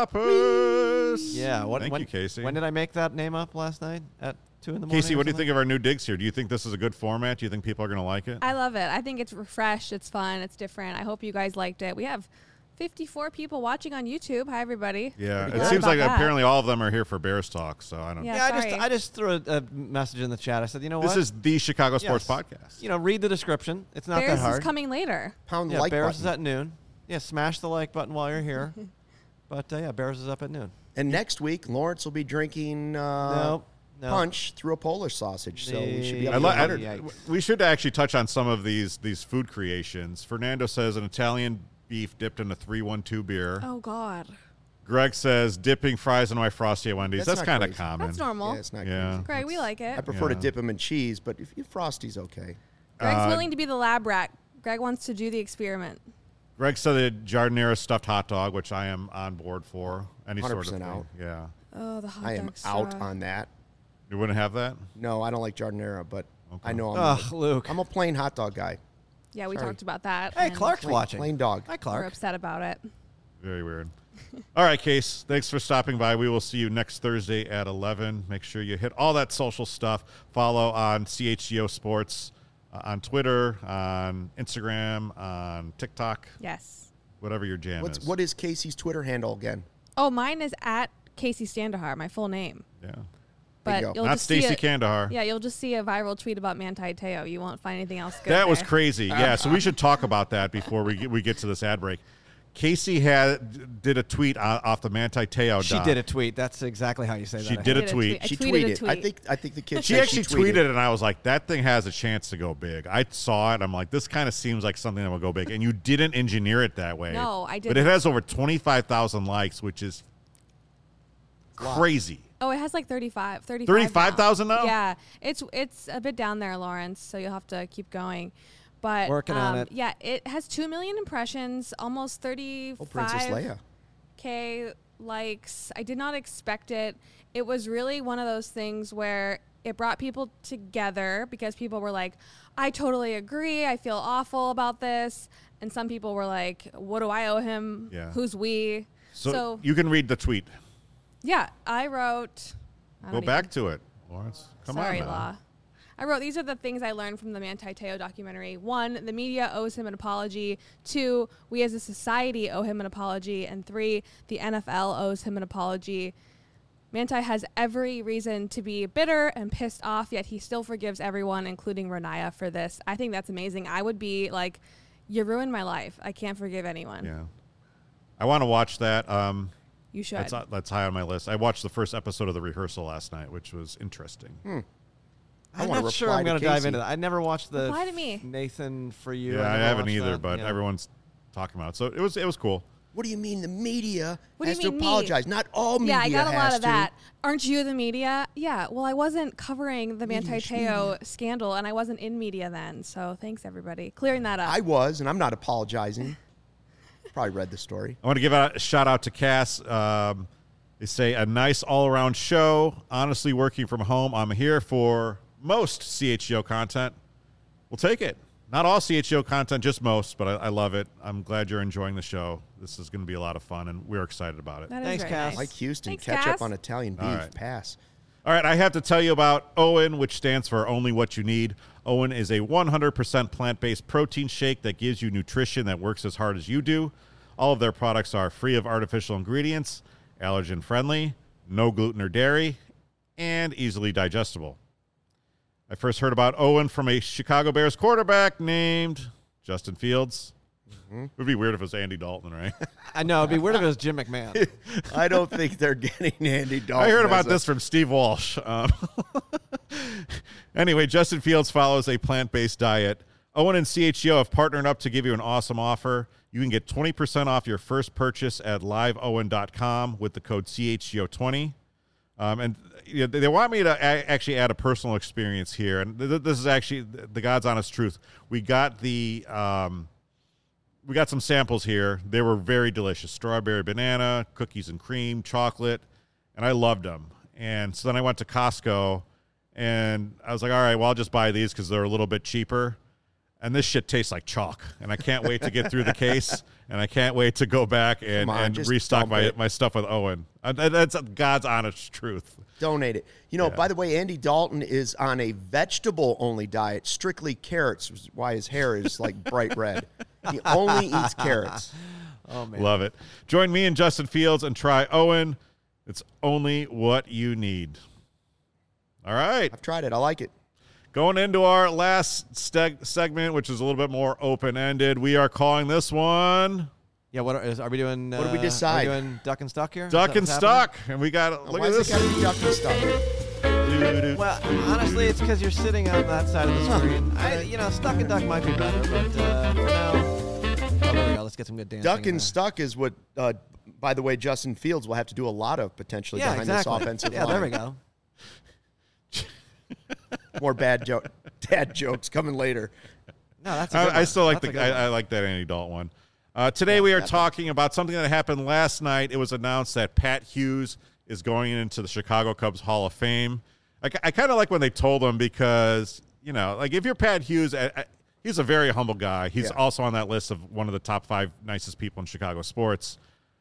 stoppers. yeah. What, Thank when, you, Casey. When did I make that name up last night at two in the morning? Casey, or what do you something? think of our new digs here? Do you think this is a good format? Do you think people are going to like it? I love it. I think it's refreshed. It's fun. It's different. I hope you guys liked it. We have fifty-four people watching on YouTube. Hi, everybody. yeah. Pretty It glad seems about like that. apparently all of them are here for Bears talk. So I don't. Yeah. Yeah, I just sorry. I just threw a, a message in the chat. I said, you know This what? is the Chicago Sports Yes. Podcast. You know, read the description. It's not Bears that hard. is coming later. Pound the yeah, like Bears button. is at noon. Yeah, smash the like button while you're here. But uh, yeah, Bears is up at noon. And next week, Lawrence will be drinking uh, Nope, no. punch through a Polish sausage. So we should be up I to li- one I- hundred. Yikes. we should actually touch on some of these these food creations. Fernando says an Italian beef dipped in a three one two beer. Oh God. Greg says dipping fries in my Frosty at Wendy's. That's That's, not kind of crazy. common. That's normal. Yeah, it's not Yeah. crazy. Greg, we like I it. prefer to Yeah. dip them in cheese, but if you Frosty's okay. Greg's Uh, willing to be the lab rat. Greg wants to do the experiment. Greg said a Jardinera stuffed hot dog, which I am on board for. Any sort of one hundred percent thing. out. Yeah. Oh, the hot I am dog out straw. on that. You wouldn't have that? No, I don't like Jardinera, but Okay. I know I'm, Ugh, a, Luke. I'm a plain hot dog guy. Yeah, we Sorry. talked about that. Hey, and Clark's Plain, watching. plain dog. Hi, We're Clark. upset about it. Very weird. All right, Case. Thanks for stopping by. We will see you next Thursday at eleven. Make sure you hit all that social stuff. Follow on C H G O Sports uh, on Twitter, on Instagram, on TikTok, Yes. whatever your jam What's is. what is Casey's Twitter handle again? Oh, mine is at Casey Standahar, my full name. Yeah. But go. you'll Not just see Stacey a- Kandahar. Yeah, you'll just see a viral tweet about Manti Te'o. You won't find anything else good. That was there. crazy. Yeah, so we should talk about that before we get, we get to this ad break. Casey had did a tweet o- off the Manti Te'o She doc. did a tweet. That's exactly how you say that. She I did think. a tweet. I She tweeted a tweeted. I tweet. think I think the kid. She said actually tweeted, and I was like, that thing has a chance to go big. I saw it. I'm like, this kind of seems like something that will go big. And you didn't engineer it that way. No, I But it didn't. has over twenty-five thousand likes, which is crazy. Oh, it has like thirty-five. thirty-five thirty-five thousand now? Yeah, it's it's a bit down there, Lawrence. So you'll have to keep going. But Working on um, it. Yeah, it has two million impressions, almost Oh, Princess thirty-five Leia. k likes. I did not expect it. It was really one of those things where it brought people together because people were like, I totally agree. I feel awful about this. And some people were like, what do I owe him? Yeah. Who's we? So, So, you can read the tweet. yeah, I wrote. I Go don't back even- to it, Lawrence. Come Sorry, on. now. Law. I wrote, these are the things I learned from the Manti Te'o documentary. One, the media owes him an apology. Two, we as a society owe him an apology. And three, the N F L owes him an apology. Manti has every reason to be bitter and pissed off, yet he still forgives everyone, including Renaya, for this. I think that's amazing. I would be like, you ruined my life. I can't forgive anyone. Yeah. I want to watch that. Um, You should. That's, that's high on my list. I watched the first episode of The Rehearsal last night, which was interesting. Hmm. I I'm wanna not sure reply I'm to going to dive Casey. into that. I never watched the Reply to me. Nathan For You. Yeah, I never haven't watched either, that. but Yeah. everyone's talking about it. So it was it was cool. What do you mean the media What do has you to mean me? apologize? Not all media Yeah, I got a lot has of to. that. Aren't you the media? Yeah. Well, I wasn't covering the Manti Media, Te'o scandal, and I wasn't in media then. So thanks, everybody. Clearing that up. I was, and I'm not apologizing. Probably read the story. I want to give a shout out to Cass. Um, they say a nice all around show. Honestly, working from home, I'm here for most C H G O content. We'll take it. Not all C H G O content, just most, but I, I love it. I'm glad you're enjoying the show. This is going to be a lot of fun, and we're excited about it. That is Thanks, very Cass. nice. Like Houston, Thanks, catch Cass. up on Italian beef. All right. Pass. All right, I have to tell you about Owen, which stands for Only What You Need. Owen is a one hundred percent plant-based protein shake that gives you nutrition that works as hard as you do. All of their products are free of artificial ingredients, allergen-friendly, no gluten or dairy, and easily digestible. I first heard about Owen from a Chicago Bears quarterback named Justin Fields. Mm-hmm. It would be weird if it was Andy Dalton, right? I know. It'd be weird if it was Jim McMahon. I don't think they're getting Andy Dalton. I heard as about a- this from Steve Walsh. Um, anyway, Justin Fields follows a plant-based diet. Owen and C H G O have partnered up to give you an awesome offer. You can get twenty percent off your first purchase at live owen dot com with the code C H G O twenty. Um, and you know, they want me to a- actually add a personal experience here. And th- this is actually the God's honest truth. We got the... Um, We got some samples here. They were very delicious. Strawberry banana, cookies and cream, chocolate, and I loved them. And so then I went to Costco, and I was like, all right, well, I'll just buy these because they're a little bit cheaper. And this shit tastes like chalk, and I can't wait to get through the case, and I can't wait to go back and, Come on, and just restock dump my, it. my stuff with Owen. Uh, that- That's God's honest truth. Donate it. You know, Yeah. by the way, Andy Dalton is on a vegetable-only diet, strictly carrots, which is why his hair is like bright red. He only eats carrots. Oh, man. Love it. Join me and Justin Fields and try Owen. It's only what you need. All right. I've tried it. I like it. Going into our last steg- segment, which is a little bit more open-ended, we are calling this one Yeah, what are, is, are we doing? What do we uh, decide? Are we doing duck and stuck here? Is Duck that and what's happening? Stuck. And we got, look Why at is this. it got to be duck and stuck? Doo-doo. Well, honestly, it's because you're sitting on that side of the screen. I, you know, stuck and duck might be better, but uh, for now, oh, there we go. Let's get some good dancing. Duck in and there. stuck is what, uh, by the way, Justin Fields will have to do a lot of potentially Yeah, behind exactly. this offensive yeah, line. there we go. More bad jo- dad jokes coming later. No, that's. A good I, I one. still like That's a the good I, I one. like that Andy Dalton one. Uh, today we are talking about something that happened last night. It was announced that Pat Hughes is going into the Chicago Cubs Hall of Fame. I, I kind of like when they told him because, you know, like if you're Pat Hughes, I, I, he's a very humble guy. He's Yeah. also on that list of one of the top five nicest people in Chicago sports.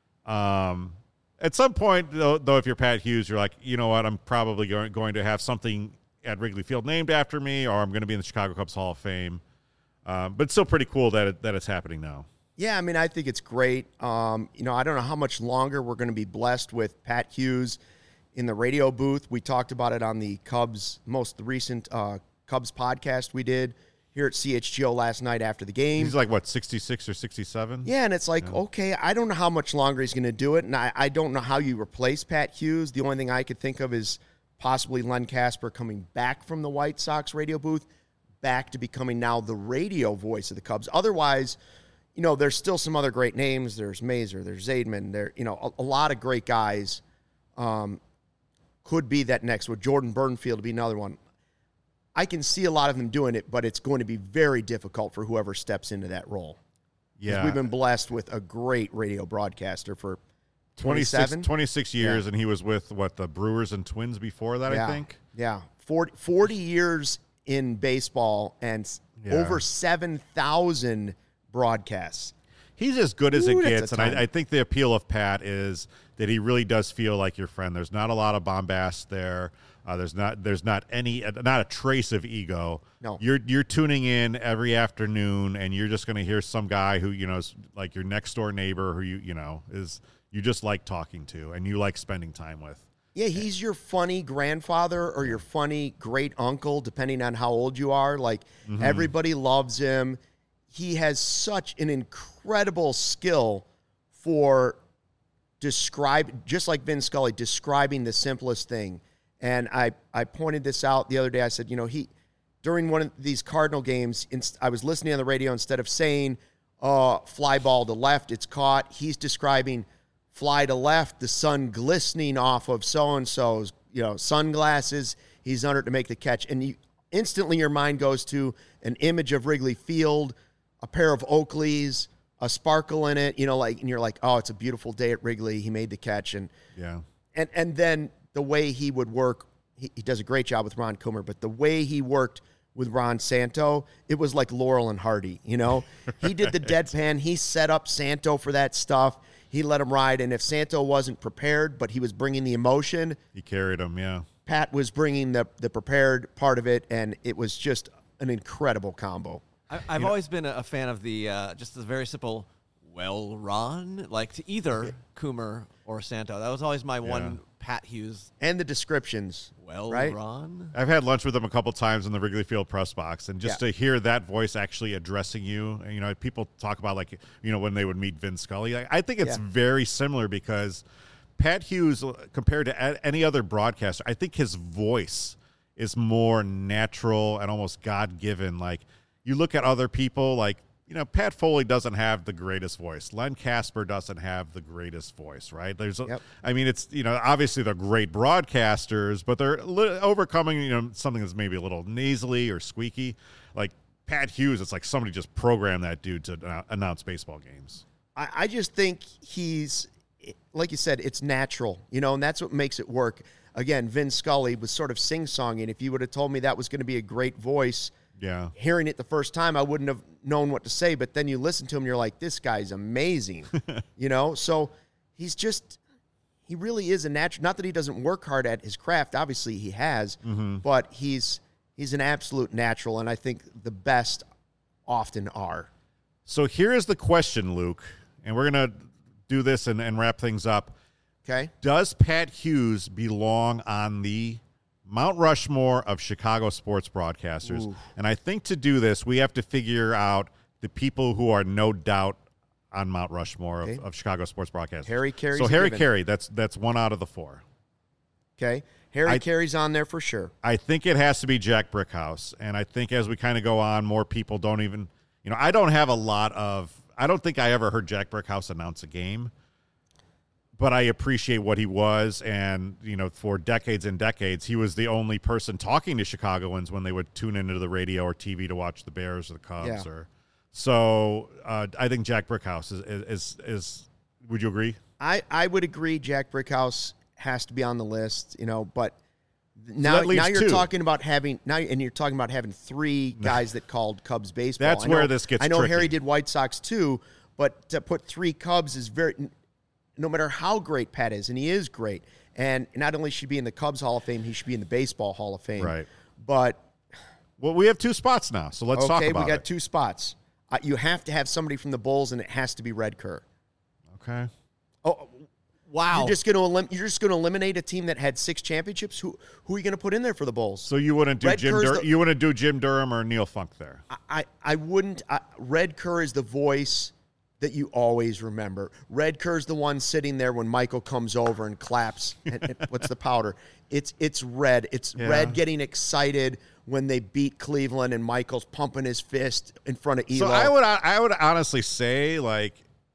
Um, at some point, though, though, if you're Pat Hughes, you're like, you know what, I'm probably going, going to have something at Wrigley Field named after me, or I'm going to be in the Chicago Cubs Hall of Fame. Um, but it's still pretty cool that it, that it's happening now. Yeah, I mean, I think it's great. Um, you know, I don't know how much longer we're going to be blessed with Pat Hughes in the radio booth. We talked about it on the Cubs, most recent uh, Cubs podcast we did here at C H G O last night after the game. He's like, what, sixty-six or sixty-seven? Yeah, and it's like, okay, I don't know how much longer he's going to do it, and I, I don't know how you replace Pat Hughes. The only thing I could think of is possibly Len Casper coming back from the White Sox radio booth, back to becoming now the radio voice of the Cubs. Otherwise, you know, there's still some other great names. There's Mazer, there's Zaidman, there, you know, a, a lot of great guys um, could be that next. With Jordan Burnfield to be another one. I can see a lot of them doing it, but it's going to be very difficult for whoever steps into that role. 'Cause Yeah. We've been blessed with a great radio broadcaster for twenty-six, twenty-seven twenty-six years, and he was with, what, the Brewers and Twins before that, yeah. I think? Yeah. forty, forty years in baseball and s- Yeah. over seven thousand broadcasts. He's as good as Ooh, it that's gets, a and ton. I, I think the appeal of Pat is that he really does feel like your friend. There's not a lot of bombast there. Uh, there's not there's not any not a trace of ego. No. You're you're tuning in every afternoon, and you're just going to hear some guy who you know is like your next door neighbor who you you know is you just like talking to and you like spending time with. Yeah, he's your funny grandfather or your funny great uncle, depending on how old you are. Like, Mm-hmm. everybody loves him. He has such an incredible skill for describe, just like Vin Scully, describing the simplest thing. And I, I pointed this out the other day. I said, you know, he during one of these Cardinal games, I was listening on the radio, instead of saying, uh, fly ball to left, it's caught, he's describing fly to left, the sun glistening off of so-and-so's, you know, sunglasses, he's under it to make the catch. And you, instantly your mind goes to an image of Wrigley Field, a pair of Oakleys, a sparkle in it, you know, like, and you're like, oh, it's a beautiful day at Wrigley. He made the catch. And, yeah. And, and then the way he would work, he, he does a great job with Ron Coomer, but the way he worked with Ron Santo, it was like Laurel and Hardy, you know? He did the deadpan. He set up Santo for that stuff. He let him ride. And if Santo wasn't prepared, but he was bringing the emotion. He carried him, yeah. Pat was bringing the, the prepared part of it, and it was just an incredible combo. I, I've you always know, been a fan of the uh, just the very simple, well, Ron, like to either Coomer or Santo. That was always my yeah. one Pat Hughes. And the descriptions. Well, right? Ron. I've had lunch with him a couple times in the Wrigley Field press box, and just yeah. to hear that voice actually addressing you, you know, people talk about, like, you know, when they would meet Vin Scully. I, I think it's yeah. very similar, because Pat Hughes, compared to any other broadcaster, I think his voice is more natural and almost God-given. Like, you look at other people, like, you know, Pat Foley doesn't have the greatest voice. Len Casper doesn't have the greatest voice, right? There's, a, yep. I mean, it's, you know, obviously they're great broadcasters, but they're li- overcoming, you know, something that's maybe a little nasally or squeaky. Like Pat Hughes, it's like somebody just programmed that dude to uh, announce baseball games. I, I just think he's, like you said, it's natural, you know, and that's what makes it work. Again, Vin Scully was sort of sing-songing. If you would have told me that was going to be a great voice, yeah, hearing it the first time, I wouldn't have known what to say. But then you listen to him, you're like, this guy's amazing, you know? So he's just, he really is a natural. Not that he doesn't work hard at his craft. Obviously he has, mm-hmm. but he's he's an absolute natural, and I think the best often are. So here is the question, Luke, and we're going to do this and, and wrap things up. Okay. Does Pat Hughes belong on the Mount Rushmore of Chicago sports broadcasters? Ooh. And I think to do this, we have to figure out the people who are no doubt on Mount Rushmore okay. of, of Chicago sports broadcasters. Harry Carey's So Harry given. Carey, that's that's one out of the four. Okay. Harry I, Carey's on there for sure. I think it has to be Jack Brickhouse. And I think as we kind of go on, more people don't even, you know, I don't have a lot of, I don't think I ever heard Jack Brickhouse announce a game. But I appreciate what he was, and, you know, for decades and decades, he was the only person talking to Chicagoans when they would tune into the radio or T V to watch the Bears or the Cubs. Yeah. Or so uh, I think Jack Brickhouse is, is, is, is, would you agree? I, I would agree Jack Brickhouse has to be on the list, you know, but now, so now you're two. talking about having, now and you're talking about having three guys that called Cubs baseball. That's I know, where this gets I know tricky. Harry did White Sox too, but to put three Cubs is very... No matter how great Pat is, and he is great, and not only should he be in the Cubs Hall of Fame, he should be in the Baseball Hall of Fame. Right. But well, we have two spots now, so let's okay, talk about it. we got it. two spots. Uh, you have to have somebody from the Bulls, and it has to be Red Kerr. Okay. Oh, wow! You're just going to elim- you're just going to eliminate a team that had six championships. Who who are you going to put in there for the Bulls? So you wouldn't do Red Jim Kerr's Dur- the- you wouldn't do Jim Durham or Neil Funk there. I I, I wouldn't. I, Red Kerr is the voice that you always remember. Red Kerr's the one sitting there when Michael comes over and claps. and, and what's the powder? It's it's Red. It's Yeah. Red getting excited when they beat Cleveland and Michael's pumping his fist in front of Elo. So I would I would honestly say, like,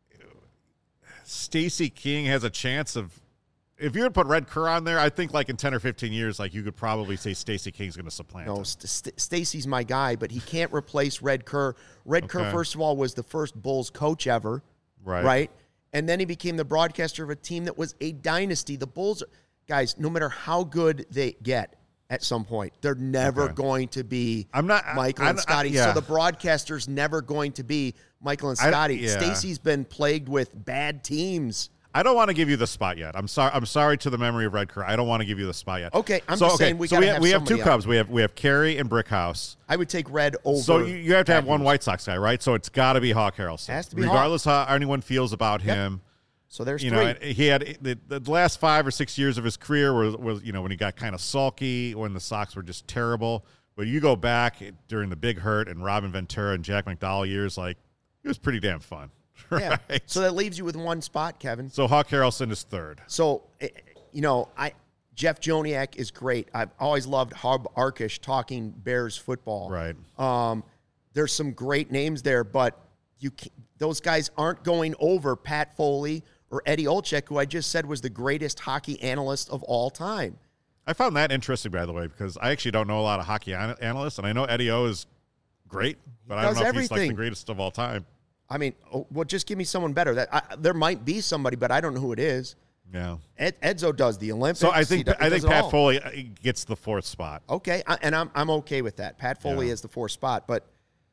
Stacey King has a chance of, if you would put Red Kerr on there, I think like in ten or fifteen years, like you could probably say Stacey King's going to supplant No, him. St- St- Stacey's my guy, but he can't replace Red Kerr. Red Kerr, Okay. first of all, was the first Bulls coach ever. Right. Right? And then he became the broadcaster of a team that was a dynasty. The Bulls, guys, no matter how good they get at some point, they're never Okay. going to be I'm not- Michael I- and I- Scotty. yeah. So the broadcaster's never going to be Michael and I- Scotty. yeah. Stacey's been plagued with bad teams. I don't want to give you the spot yet. I'm sorry. I'm sorry to the memory of Red Kerr. I don't want to give you the spot yet. Okay, I'm so, just okay, saying we so gotta we have, have we have two somebody Cubs. We have we have Carey and Brickhouse. I would take Red over. So you, you have to have one Matthews. White Sox guy, right? So it's got to be Hawk Harrelson. Has to be Hawk. regardless how anyone feels about Yep. him. So there's You three. know, he had the, the last five or six years of his career was, was you know when he got kind of sulky, when the Sox were just terrible. But you go back during the Big Hurt and Robin Ventura and Jack McDowell years, like it was pretty damn fun. Yeah. Right. So that leaves you with one spot, Kevin. So Hawk Harrelson is third. So, eh, you know, I Jeff Joniak is great. I've always loved Hub Arkish talking Bears football. Right. Um, there's some great names there, but you can't, those guys aren't going over Pat Foley or Eddie Olczyk, who I just said was the greatest hockey analyst of all time. I found that interesting, by the way, because I actually don't know a lot of hockey an- analysts, and I know Eddie O is great, but I don't does know if he's like everything. the greatest of all time. I mean, oh, well, just give me someone better. That I, there might be somebody, but I don't know who it is. Yeah. Ed, Edzo does the Olympics. So I He think does- he I does think it Pat all. Foley uh, gets the fourth spot. Okay, I, and I'm I'm okay with that. Pat Foley Yeah. is the fourth spot, but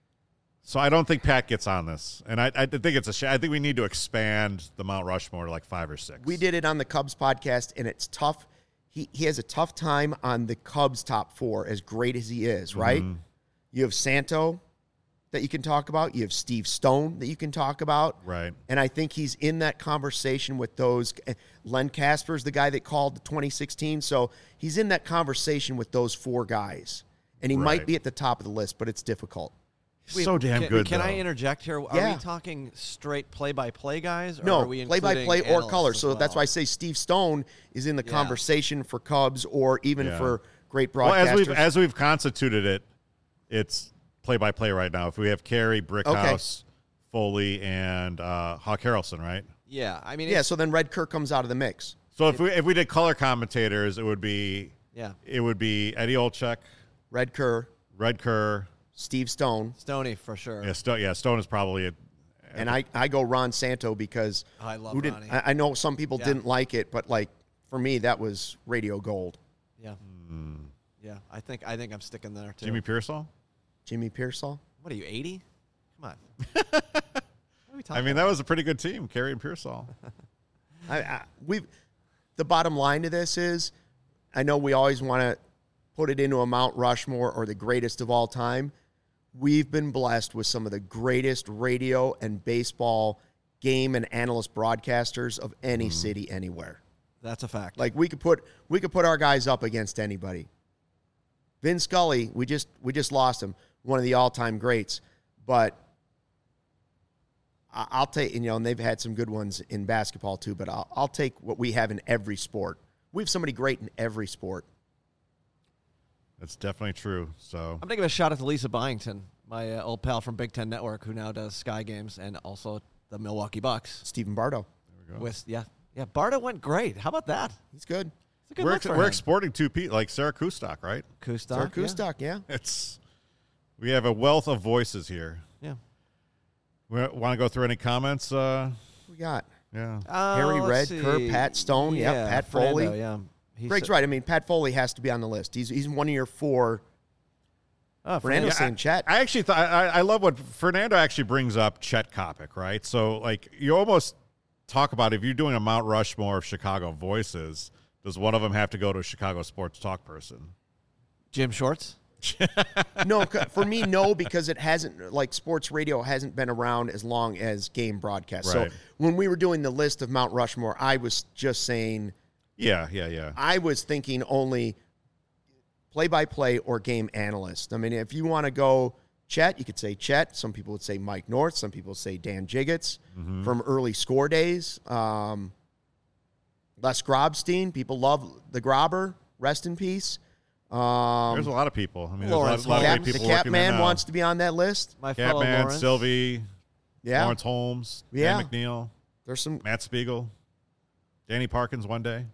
So I don't think Pat gets on this, and I, I think it's a sh- I think we need to expand the Mount Rushmore to like five or six. we did it on the Cubs podcast, and it's tough. He he has a tough time on the Cubs top four, as great as he is, right? Mm-hmm. You have Santo that you can talk about. You have Steve Stone that you can talk about. Right. And I think he's in that conversation with those. Len Casper's the guy that called the twenty sixteen. So he's in that conversation with those four guys. And he Right. might be at the top of the list, but it's difficult. He's so damn Can, good. can though. I interject here? Are Yeah. we talking straight play-by-play guys? Or No, are we play-by-play including or color. analysts as So that's well? why I say Steve Stone is in the Yeah. conversation for Cubs or even Yeah. for great Well, broadcasters. as we've as we've constituted it, it's play by play right now. If we have Carey, Brickhouse, Foley, and uh, Hawk Harrelson, right? Yeah, I mean, yeah, it's, so then Red Kerr comes out of the mix. So if we if we did color commentators, it would be yeah, it would be Eddie Olczyk, Red Kerr, Red Kerr. Steve Stone, Stoney for sure. Yeah, Stone. Yeah, Stone is probably a, and I, I go Ron Santo because Oh, I love who didn't, Ronnie. I, I know some people Yeah. didn't like it, but like for me that was radio gold. Yeah, yeah. I think I think I'm sticking there too. Jimmy Pearsall. Jimmy Pearsall. What are you, eighty? Come on. What are we talking I mean, that was a pretty good team, Carey and Pearsall. I, I we the bottom line to this is I know we always want to put it into a Mount Rushmore or the greatest of all time. We've been blessed with some of the greatest radio and baseball game and analyst broadcasters of any city anywhere. That's a fact. Like we could put we could put our guys up against anybody. Vin Scully, we just we just lost him, one of the all-time greats. But I- I'll take, you know, and they've had some good ones in basketball too, but I'll I'll take what we have in every sport. We have somebody great in every sport. That's definitely true. So I'm going to give a shout out to Lisa Byington, my uh, old pal from Big Ten Network, who now does Sky Games and also the Milwaukee Bucks. Stephen Bardo. there we go. With yeah, yeah, Barta went great. How about that? He's good. It's a good we're look ex- for we're him. exporting two people like Sarah Kustok, right? Kustok, Sarah yeah. Kustok, yeah. It's we have a wealth of voices here. Yeah. We want to go through any comments? Uh, We got yeah. Uh, Harry let's Red, Kerr, see. Pat Stone, yep, yeah, Pat Fernando, Foley. Yeah, He's Greg's a- right. I mean, Pat Foley has to be on the list. He's he's one of your four. Oh, Fernando's Fernando. saying Chet. I actually thought I, I love what Fernando actually brings up. Chet Kopic, right? So like you almost talk about if you're doing a Mount Rushmore of Chicago voices, does one of them have to go to a Chicago sports talk person? Jim Shorts. No, c- for me, no, because it hasn't, like, sports radio hasn't been around as long as game broadcast. Right. So when we were doing the list of Mount Rushmore, I was just saying, Yeah, yeah, yeah. I was thinking only play-by-play or game analyst. I mean, if you want to go Chet, you could say Chet. Some people would say Mike North. Some people would say Dan Jiggets from early score days. Um, Les Grobstein. People love the Grobber. Rest in peace. Um, There's a lot of people. I mean, Lawrence there's a lot, a lot Cap, of the great people Cap working there Man now. wants to be on that list. My fellow Catman, Lawrence. Sylvie, Yeah. Lawrence Holmes, Yeah. Dan McNeil, There's some Matt Spiegel, Danny Parkins one day.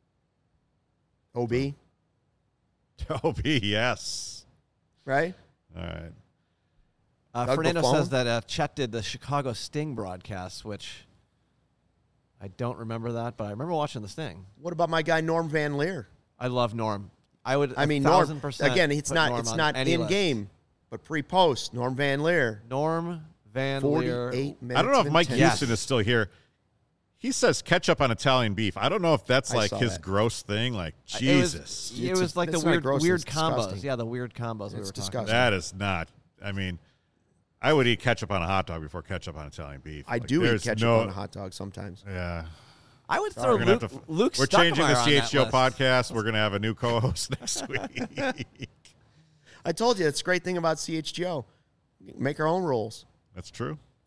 O B, O B, yes. right? All right. Uh, Doug Fernando Buffon? says that uh, Chet did the Chicago Sting broadcast, which I don't remember that, but I remember watching the Sting. What about my guy Norm Van Leer? I love Norm. I would. I a mean, thousand Norm. percent Again, it's put not Norm it's on not any in list. game, but pre-post. Norm Van Leer, Norm Van Leer. forty-eight minutes. I don't know if and Mike ten Houston Yes. is still here. He says ketchup on Italian beef. I don't know if that's I like saw his that. gross thing. Like, It was, Jesus. it It's was a- like the it's not weird, gross, weird it's combos. disgusting. Yeah, the weird combos we It's were talking disgusting. about. That is not. I mean, I would eat ketchup on a hot dog before ketchup on Italian beef. I Like, do eat there's ketchup no- on a hot dog sometimes. Yeah. I would throw We're gonna Luke, have to, Luke we're changing the Stuckmeyer on C that H G O list. podcast. We're going to have a new co-host next week. I told you, it's a great thing about C H G O. Make our own rules. That's true.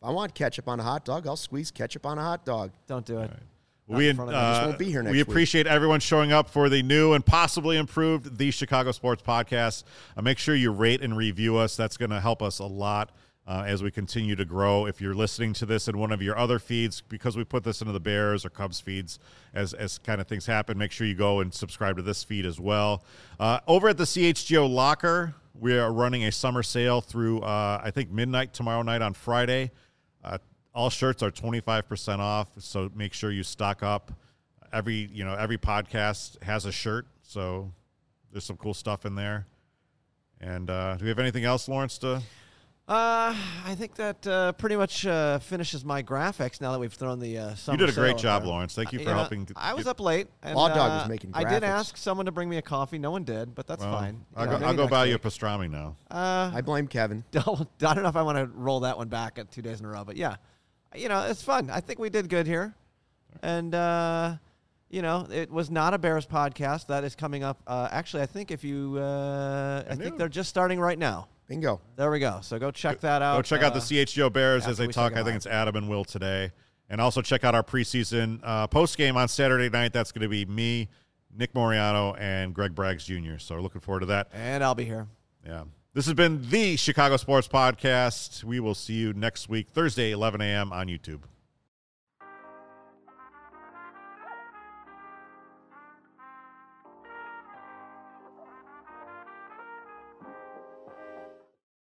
I want ketchup on a hot dog. I'll squeeze ketchup on a hot dog. Don't do it. Right. We, in front of me. I just uh, won't be here next we week. appreciate everyone showing up for the new and possibly improved The Chicago Sports Podcast. Uh, make sure you rate and review us. That's going to help us a lot uh, as we continue to grow. If you're listening to this in one of your other feeds, because we put this into the Bears or Cubs feeds as, as kind of things happen, make sure you go and subscribe to this feed as well. Uh, over at the C H G O Locker, we are running a summer sale through, uh, I think, midnight tomorrow night on Friday. Uh, all shirts are twenty-five percent off, so make sure you stock up. Every, you know, every podcast has a shirt, so there's some cool stuff in there. And uh, do we have anything else, Lawrence, to... Uh, I think that uh, pretty much uh, finishes my graphics now that we've thrown the uh, summer You did a great sale job, there. Lawrence. Thank you for know, helping. To I was get- up late. And, Law Dog uh, was making I did graphics. ask someone to bring me a coffee. No one did, but that's Well, fine. You I'll know, go, maybe I'll go next buy you a week. pastrami now. Uh, I blame Kevin. don't, I don't know if I want to roll that one back at two days in a row, but yeah, you know, it's fun. I think we did good here. And, uh, you know, it was not a Bears podcast. That is coming up. Uh, actually, I think if you, uh, I knew. think they're just starting right now. Bingo. There we go. So go check that out. Go check out Uh, the C H G O Bears as after they we say talk. I goodbye. think it's Adam and Will today. And also check out our preseason uh, post game on Saturday night. That's going to be me, Nick Moriano, and Greg Braggs Junior So looking forward to that. And I'll be here. Yeah. This has been the Chicago Sports Podcast. We will see you next week, Thursday, eleven a.m. on YouTube.